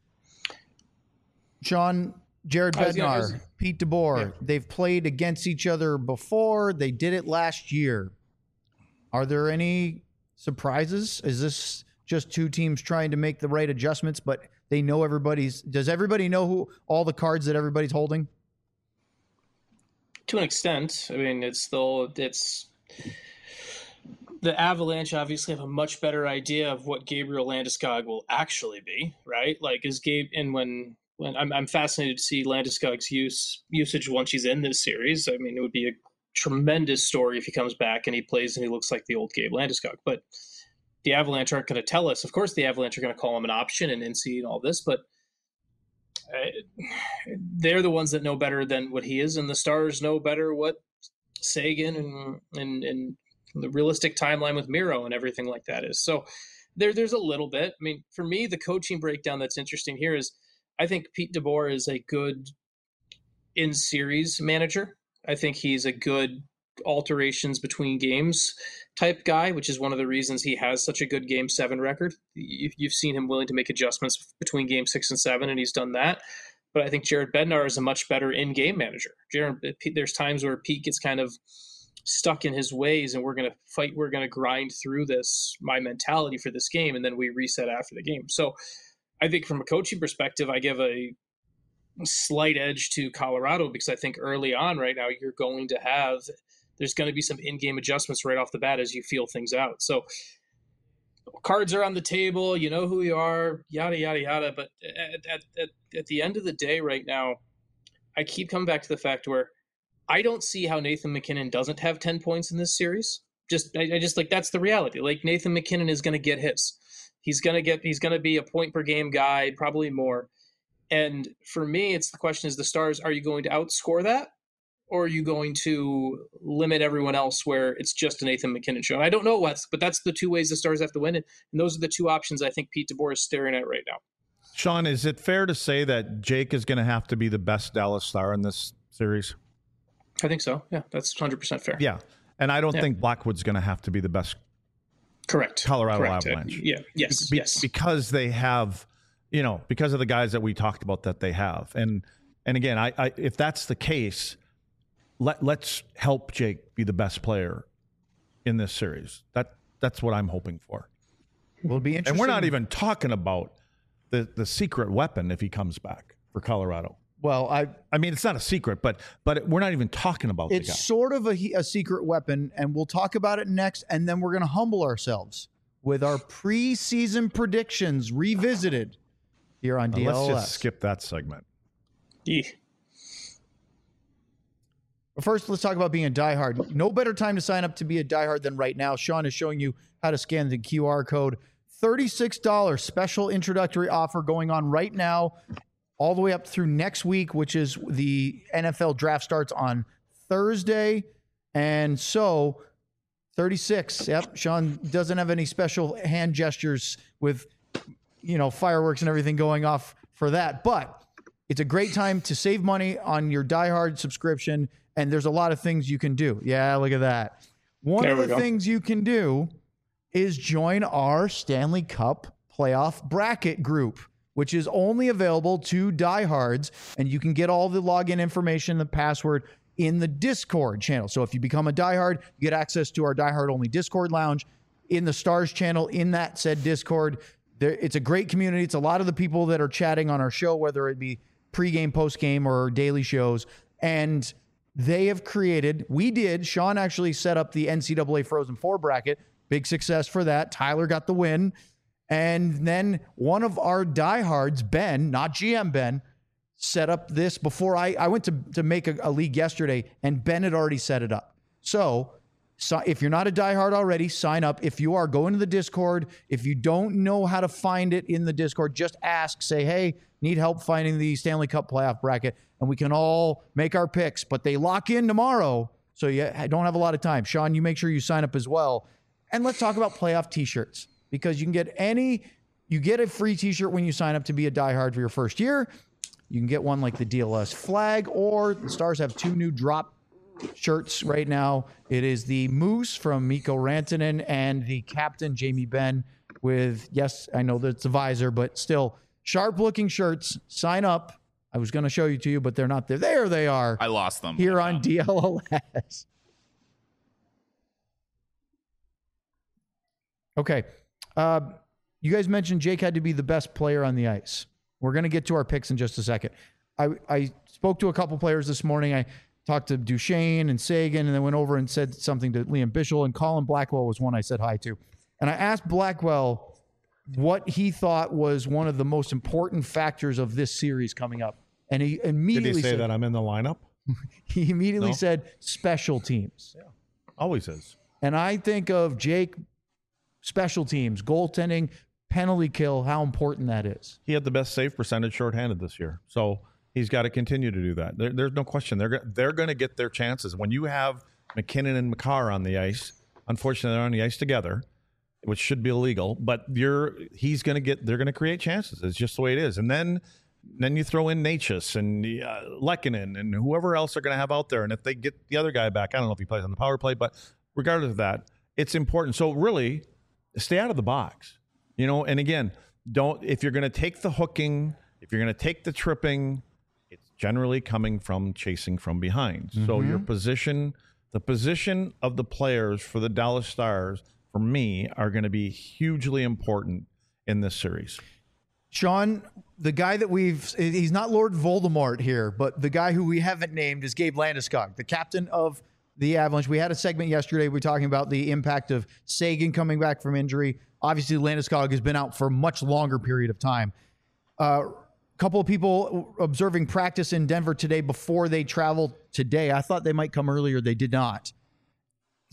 Sean, Jared I was gonna- I Bednar, was- Pete DeBoer, Yeah. they've played against each other before. They did it last year. Are there any surprises? Is this just two teams trying to make the right adjustments, but they know everybody's – does everybody know who all the cards that everybody's holding? To an extent. I mean, it's still it's the Avalanche obviously have a much better idea of what Gabriel Landeskog will actually be, right? Like, is Gabe and when when I'm I'm fascinated to see Landeskog's use usage once he's in this series. I mean, it would be a tremendous story if he comes back and he plays and he looks like the old Gabe Landeskog. But the Avalanche aren't going to tell us. Of course, the Avalanche are going to call him an option and N C and all this, but they're the ones that know better than what he is, and the Stars know better what Sagan and and, and the realistic timeline with Miro and everything like that is. So there, there's a little bit. I mean, for me, the coaching breakdown that's interesting here is I think Pete DeBoer is a good in-series manager. I think he's a good alterations between games type guy, which is one of the reasons he has such a good game seven record. You've seen him willing to make adjustments between game six and seven, and he's done that. But I think Jared Bednar is a much better in-game manager. Jared, there's times where Pete gets kind of stuck in his ways, and we're going to fight, we're going to grind through this, my mentality for this game, and then we reset after the game. So I think from a coaching perspective, I give a slight edge to Colorado because I think early on right now you're going to have – there's going to be some in-game adjustments right off the bat as you feel things out. So cards are on the table, you know who you are, yada, yada, yada. But at, at, at, at the end of the day right now, I keep coming back to the fact where I don't see how Nathan MacKinnon doesn't have ten points in this series. Just, I, I just like, that's the reality. Like Nathan MacKinnon is going to get his. He's going to get, he's going to be a point per game guy, probably more. And for me, it's the question is the Stars, are you going to outscore that? Or are you going to limit everyone else where it's just a Nathan MacKinnon show? And I don't know what's, but that's the two ways the Stars have to win it. And those are the two options I think Pete DeBoer is staring at right now. Sean, is it fair to say that Jake is going to have to be the best Dallas Star in this series? I think so. Yeah, that's one hundred percent fair. Yeah. And I don't yeah. think Blackwood's going to have to be the best Correct. Colorado Correct. Avalanche. Uh, yeah. Yes. Be- yes. Because they have, you know, because of the guys that we talked about that they have. And and again, I, I if that's the case, let let's help Jake be the best player in this series. That that's what I'm hoping for. Will be interesting. And we're not even talking about the the secret weapon if he comes back for Colorado. Well, I I mean, it's not a secret, but but we're not even talking about it's the guy. sort of a, a secret weapon, and we'll talk about it next, and then we're going to humble ourselves with our preseason predictions revisited here on Uh, D L S. let's just skip that segment. Yeah. But first, let's talk about being a diehard. No better time to sign up to be a diehard than right now. Sean is showing you how to scan the Q R code. thirty-six dollars special introductory offer going on right now, all the way up through next week, which is the N F L draft starts on Thursday. And so thirty-six. Yep. Sean doesn't have any special hand gestures with, you know, fireworks and everything going off for that. But it's a great time to save money on your diehard subscription. And there's a lot of things you can do. Yeah, look at that. One There of we the go. things you can do is join our Stanley Cup playoff bracket group, which is only available to diehards. And you can get all the login information, the password in the Discord channel. So if you become a diehard, you get access to our diehard only Discord lounge in the Stars channel in that said Discord. There, it's a great community. It's a lot of the people that are chatting on our show, whether it be pregame, postgame, or daily shows. And they have created, we did, Sean actually set up the N C double A Frozen Four bracket. Big success for that. Tyler got the win. And then one of our diehards, Ben, not G M Ben, set up this before I, I went to, to make a, a league yesterday, and Ben had already set it up. So, so if you're not a diehard already, sign up. If you are, go into the Discord. If you don't know how to find it in the Discord, just ask, say, hey, need help finding the Stanley Cup playoff bracket, and we can all make our picks. But they lock in tomorrow, so you don't have a lot of time. Sean, you make sure you sign up as well. And let's talk about playoff t-shirts, because you can get any, you get a free t-shirt when you sign up to be a diehard for your first year. You can get one like the D L S flag, or the Stars have two new drop shirts right now. It is the Moose from Mikko Rantanen and the Captain Jamie Benn with, yes, I know that's a visor, but still sharp looking shirts. Sign up. I was going to show you to you, but they're not there. There they are. I lost them. Here I on found D L S. Okay. Uh, you guys mentioned Jake had to be the best player on the ice. We're going to get to our picks in just a second. I, I spoke to a couple players this morning. I talked to Duchesne and Sagan, and then went over and said something to Liam Bichel, and Colin Blackwell was one I said hi to. And I asked Blackwell what he thought was one of the most important factors of this series coming up. And he immediately Did he say said, that I'm in the lineup? he immediately No? said special teams. Always is. And I think of Jake, special teams, goaltending, penalty kill, how important that is. He had the best save percentage shorthanded this year. So he's got to continue to do that. There, there's no question. They're, go- they're going to get their chances. When you have McKinnon and Makar on the ice, unfortunately, they're on the ice together, which should be illegal, but you're he's going to get, they're going to create chances. It's just the way it is. And then then you throw in Natchez and uh, Lehkonen and whoever else they're going to have out there. And if they get the other guy back, I don't know if he plays on the power play, but regardless of that, it's important. So really, stay out of the box, you know. And again, don't, if you're going to take the hooking, if you're going to take the tripping, it's generally coming from chasing from behind. Mm-hmm. So your position, the position of the players for the Dallas Stars, for me, are going to be hugely important in this series. Sean, the guy that we've, he's not Lord Voldemort here, but the guy who we haven't named is Gabe Landeskog, the captain of the Avalanche. We had a segment yesterday. We were talking about the impact of Sagan coming back from injury. Obviously, Landeskog has been out for a much longer period of time. A uh, couple of people observing practice in Denver today before they traveled today. I thought they might come earlier. They did not.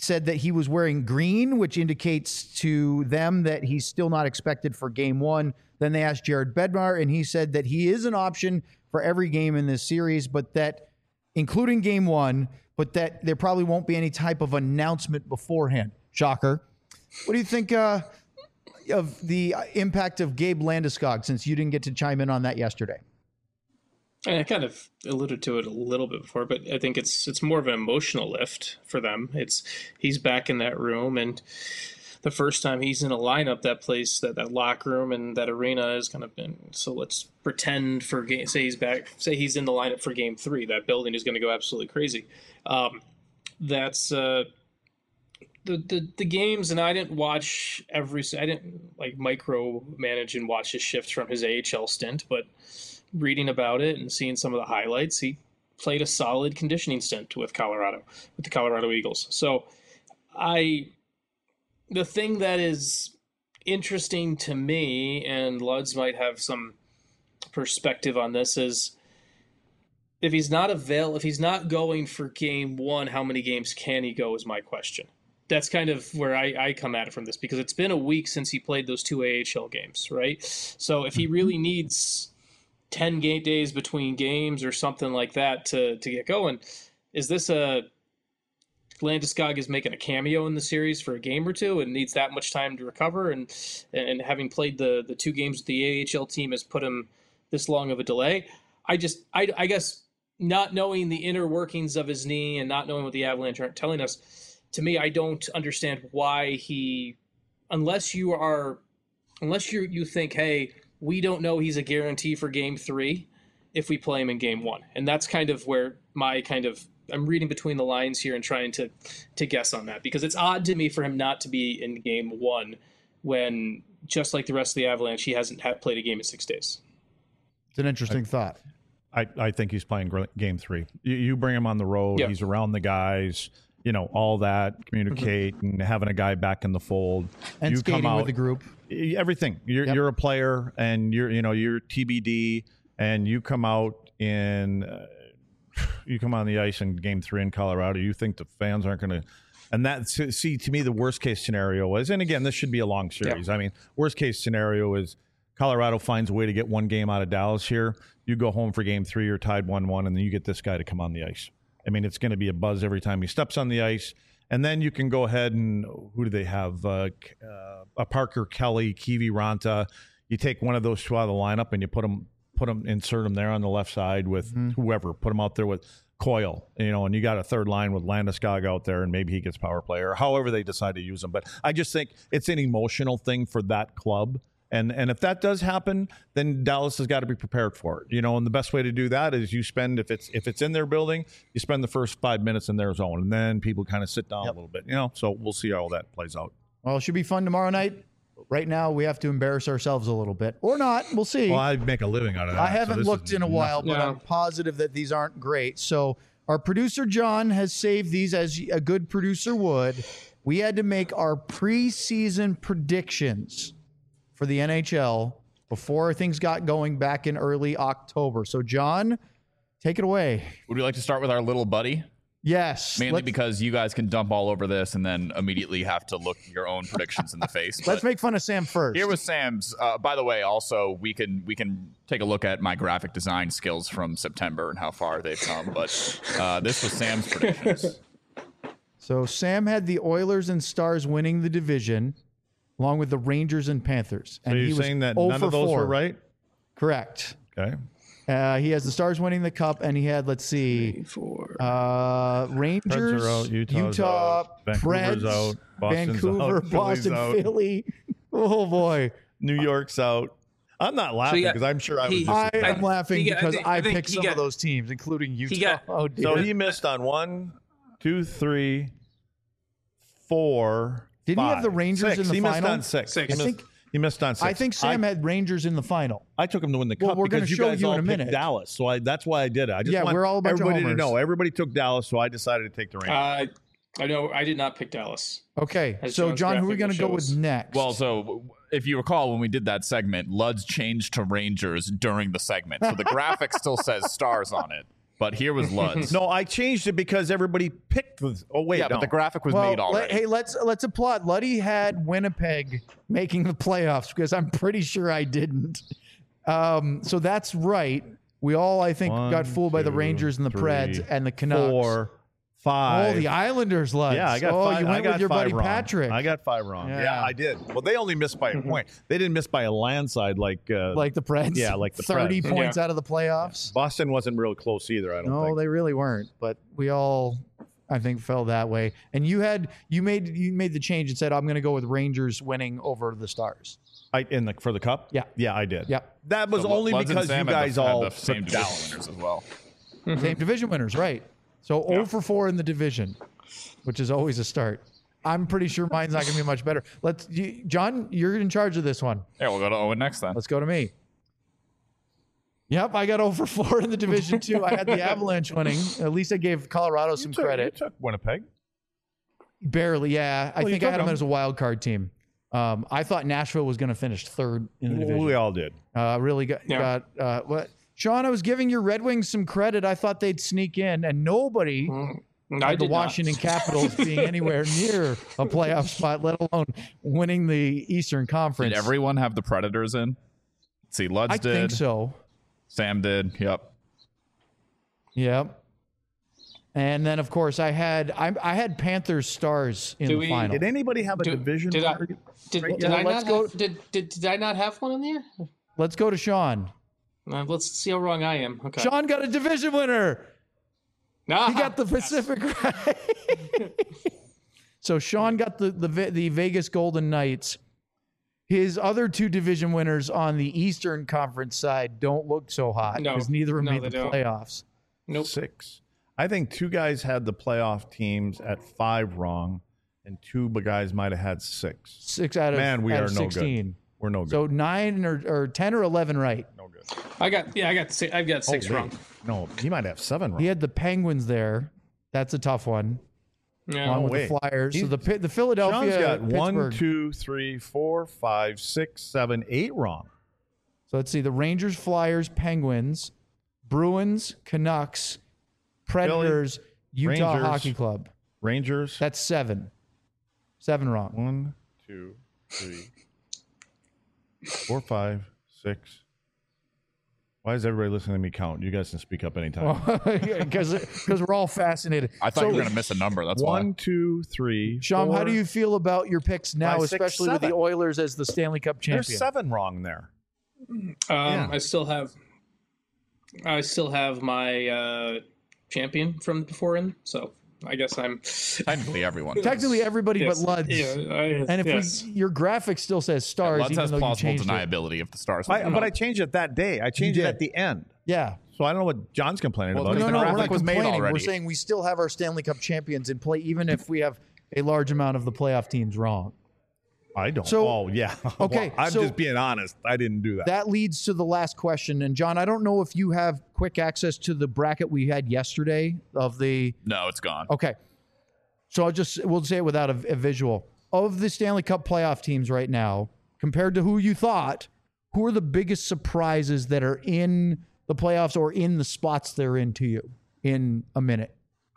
said that he was wearing green, which indicates to them that he's still not expected for game one. Then they asked Jared Bednar, and he said that he is an option for every game in this series, but that, including game one, but that there probably won't be any type of announcement beforehand. Shocker. What do you think uh, of the impact of Gabe Landeskog, since you didn't get to chime in on that yesterday? I kind of alluded to it a little bit before, but I think it's it's more of an emotional lift for them. It's he's back in that room, and the first time he's in a lineup, that place, that, that locker room and that arena has kind of been. So let's pretend for game. Say he's back. Say he's in the lineup for game three. That building is going to go absolutely crazy. Um, that's uh, the the the games, and I didn't watch every. I didn't like micromanage and watch his shift from his A H L stint, but reading about it and seeing some of the highlights, he played a solid conditioning stint with Colorado, with the Colorado Eagles. So I, the thing that is interesting to me, and Luds might have some perspective on this, is if he's not avail, if he's not going for game one, how many games can he go is my question. That's kind of where I, I come at it from this, because it's been a week since he played those two A H L games, right? So if he really needs ten game days between games or something like that to, to get going, is this a Landeskog is making a cameo in the series for a game or two and needs that much time to recover, and and having played the the two games with the A H L team has put him this long of a delay? I just I, I guess not knowing the inner workings of his knee and not knowing what the Avalanche aren't telling us, to me, I don't understand why he, unless you are unless you you think, hey, we don't know he's a guarantee for game three if we play him in game one. And that's kind of where my kind of, I'm reading between the lines here and trying to, to guess on that, because it's odd to me for him not to be in game one when, just like the rest of the Avalanche, he hasn't had played a game in six days. It's an interesting I, thought. I, I think he's playing game three. You, you bring him on the road. Yep. He's around the guys, you know, all that, communicate mm-hmm. and having a guy back in the fold. And you skating come out, with the group. Everything. You're yep. you're a player, and you're you know you're T B D, and you come out in uh, you come on the ice in game three in Colorado. You think the fans aren't going to, and that see to me the worst case scenario is, and again this should be a long series. Yep. I mean, worst case scenario is Colorado finds a way to get one game out of Dallas here. You go home for game three, you're tied one one, and then you get this guy to come on the ice. I mean, it's going to be a buzz every time he steps on the ice. And then you can go ahead and, who do they have? Uh, uh, a Parker Kelly, Kiwi Ranta. You take one of those two out of the lineup and you put them, put them, insert them there on the left side with mm-hmm. whoever. Put them out there with Coyle, you know, and you got a third line with Landeskog out there, and maybe he gets power play or however they decide to use him. But I just think it's an emotional thing for that club. And and if that does happen, then Dallas has got to be prepared for it, you know. And the best way to do that is you spend if it's if it's in their building, you spend the first five minutes in their zone, and then people kind of sit down yep. a little bit, you know. So we'll see how all that plays out. Well, it should be fun tomorrow night. Right now, we have to embarrass ourselves a little bit, or not. We'll see. Well, I make a living out of that. I haven't so looked in a while, but yeah. I'm positive that these aren't great. So our producer John has saved these as a good producer would. We had to make our preseason predictions for the N H L before things got going back in early October. So, John, take it away. Would we like to start with our little buddy? Yes. Mainly let's, because you guys can dump all over this and then immediately have to look your own predictions in the face. Let's make fun of Sam first. Here was Sam's. Uh, by the way, also, we can we can take a look at my graphic design skills from September and how far they've come. But uh, this was Sam's predictions. So, Sam had the Oilers and Stars winning the division, along with the Rangers and Panthers. So and you're he saying was that none of those four. were right? Correct. Okay. Uh, he has the Stars winning the Cup, and he had, let's see, Three, four. Uh, Rangers, Preds are out, Utah's Utah, out, Vancouver's Preds, out, Boston's Vancouver, out, Boston, out. Philly. Oh, boy. New York's out. I'm not laughing because so I'm sure I was he, just. I am laughing got, because I, think, I, I think picked some got, of those teams, including Utah. He got, oh, dear. So he missed on one, two, three, four. Didn't five, he have the Rangers six. in the he final? He missed on six. six. He, I missed, think, he missed on six. I think Sam I, had Rangers in the final. I took him to win the well, Cup we're because you show guys you all in a picked minute. Dallas. So I, that's why I did it. I just yeah, want we're all a bunch everybody of to homers. know. Everybody took Dallas, so I decided to take the Rangers. Uh, I know I did not pick Dallas. Okay, As so John's John, who are we graphic going to go shows. with next? Well, so if you recall, when we did that segment, Luds changed to Rangers during the segment. So the graphic still says Stars on it. but here was Luds. No, I changed it because everybody picked the. Oh wait, yeah, no. but the graphic was Well, made let- already. hey, let's let's applaud. Luddy had Winnipeg making the playoffs because I'm pretty sure I didn't. Um, so that's right. We all, I think, One, got fooled by the two, Rangers and the three, Preds and the Canucks. Four, five. Oh, the Islanders, Luds. Yeah, I got oh, five. you I went got with your five buddy wrong. Patrick. I got five wrong. Yeah. Yeah, I did. Well, they only missed by a point. They didn't miss by a landslide like uh, like the Preds. Yeah, like the thirty Preds. points Yeah. out of the playoffs. Boston wasn't real close either. I don't No, think. they really weren't. But we all, I think, fell that way. And you had you made you made the change and said, I'm going to go with Rangers winning over the Stars. I in the for the cup. Yeah. yeah, I did. Yeah. That was So only Luds and because you Sam had guys the, had all the same took division Dallas. winners as well. Same division winners, right? So zero for four in the division, which is always a start. I'm pretty sure mine's not going to be much better. Let's, you, John, you're in charge of this one. Yeah, we'll go to Owen next then. Let's go to me. Yep, I got zero for four in the division too. I had the Avalanche winning. At least I gave Colorado some You took, credit. You took Winnipeg. Barely, yeah. I Well, you think I took had them them. as a wild card team. Um, I thought Nashville was going to finish third in the division. We all did. Uh, really got, Yeah. got uh, what? Sean, I was giving your Red Wings some credit. I thought they'd sneak in, and nobody I had the did not. Washington Capitals being anywhere near a playoff spot, let alone winning the Eastern Conference. Did everyone have the Predators in? Let's see, Luds I did. think so. Sam did. Yep. Yep. And then, of course, I had I, I had Panthers Stars in Do the we- final. Did anybody have a Do- division? did I- target? Did, Right, did yeah, I let's not go- have, did, did did I not have one in there? Let's go to Sean. Uh, let's see how wrong I am. Okay. Sean got a division winner. Nah. He got the Pacific right. So Sean got the, the Ve- the Vegas Golden Knights. His other two division winners on the Eastern Conference side don't look so hot No. because neither of them No, made the they don't. playoffs. Nope. Six. I think two guys had the playoff teams at five wrong, and two guys might have had six. Six out of, Man, we out are of no good. sixteen. We're no good. So nine or, or ten or eleven right. no good. I got yeah. I got six. I've got six Oh, wrong. wait. No, he might have seven wrong. He had the Penguins there. That's a tough one. Yeah. Along with wait. the Flyers. So He's- the Pi- the Philadelphia Sean's got one, Pittsburgh. two, three, four, five, six, seven, eight wrong. So let's see: the Rangers, Flyers, Penguins, Bruins, Canucks, Predators, Utah Rangers. Hockey Club. Rangers. That's seven. Seven wrong. One, two, three, four, five, six. Why is everybody listening to me count? You guys can speak up anytime. Because because we're all fascinated. I thought So, you were going to miss a number. That's One, why. two, three. Sean, how four, do you feel about your picks now, five, six, especially with the seven. Oilers as the Stanley Cup There's champion? seven wrong there. Um, Yeah. I still have. I still have my uh, champion from before in, so I guess I'm. Technically, everyone. Technically, everybody Yes. but Luds. Yeah, I, And if yes. we, your graphic still says stars, Luds even has though you plausible changed it. deniability if the Stars. I, win. but I changed it that day. I changed You it did. at the end. Yeah. So I don't know what John's complaining Well, about. no, No, the no, we're graphic not was made complaining. We're already. saying we still have our Stanley Cup champions in play, even if we have a large amount of the playoff teams wrong. I don't. So- oh, yeah. Okay, Well, I'm so- just being honest. I didn't do that. That leads to the last question. And John, I don't know if you have quick access to the bracket we had yesterday of the. No, it's gone. Okay. So I'll just, we'll say it without a, a visual. Of the Stanley Cup playoff teams right now, compared to who you thought, who are the biggest surprises that are in the playoffs or in the spots they're in to you in a minute?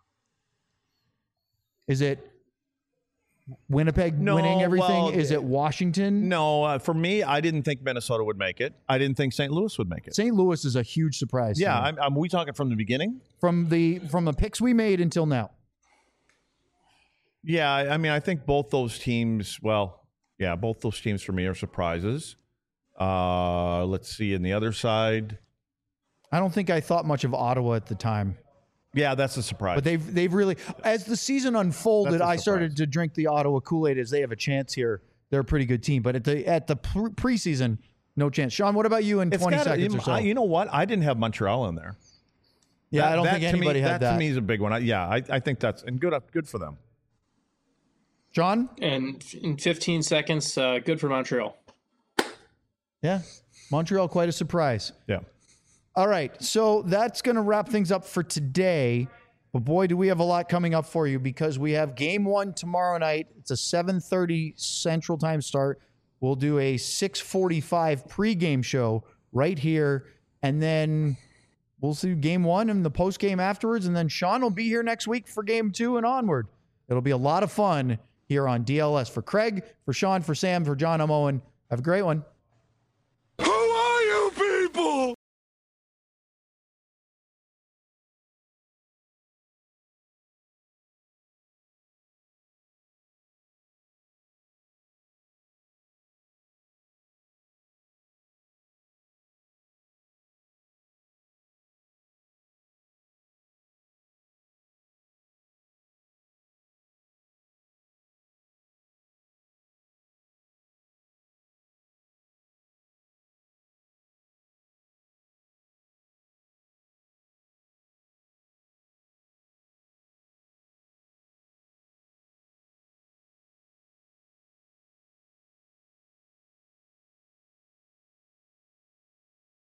Is it Winnipeg No, winning everything? well, Is it Washington? No, uh, for me, I didn't think Minnesota would make it. I didn't think Saint Louis would make it. Saint Louis is a huge surprise. to Yeah, me. I'm, I'm, we talking from the beginning? from the from the picks we made until now. Yeah, I I mean, I think both those teams. Well, yeah, both those teams for me are surprises. Uh, let's see, in the other side, I don't think I thought much of Ottawa at the time, yeah, that's a surprise. but they've they've really, as the season unfolded, That's a I started surprise. to drink the Ottawa Kool-Aid as they have a chance here. They're a pretty good team, but at the at the pre- preseason, no chance. Sean, what about you in It's twenty gotta- seconds you, or so? I- you know what? I didn't have Montreal in there. yeah, That- I don't that think to me- anybody had that. that. To me is a big one. I, yeah, I, I think that's and good good for them. John, And in fifteen seconds, uh, good for Montreal. yeah, Montreal quite a surprise. Yeah. All right, so that's going to wrap things up for today. But boy, do we have a lot coming up for you because we have game one tomorrow night. It's a seven thirty Central Time start. We'll do a six forty-five pregame show right here, and then we'll see game one and the post game afterwards. And then Sean will be here next week for game two and onward. It'll be a lot of fun here on D L S. For Craig, for Sean, for Sam, for John, I'm Owen. Have a great one.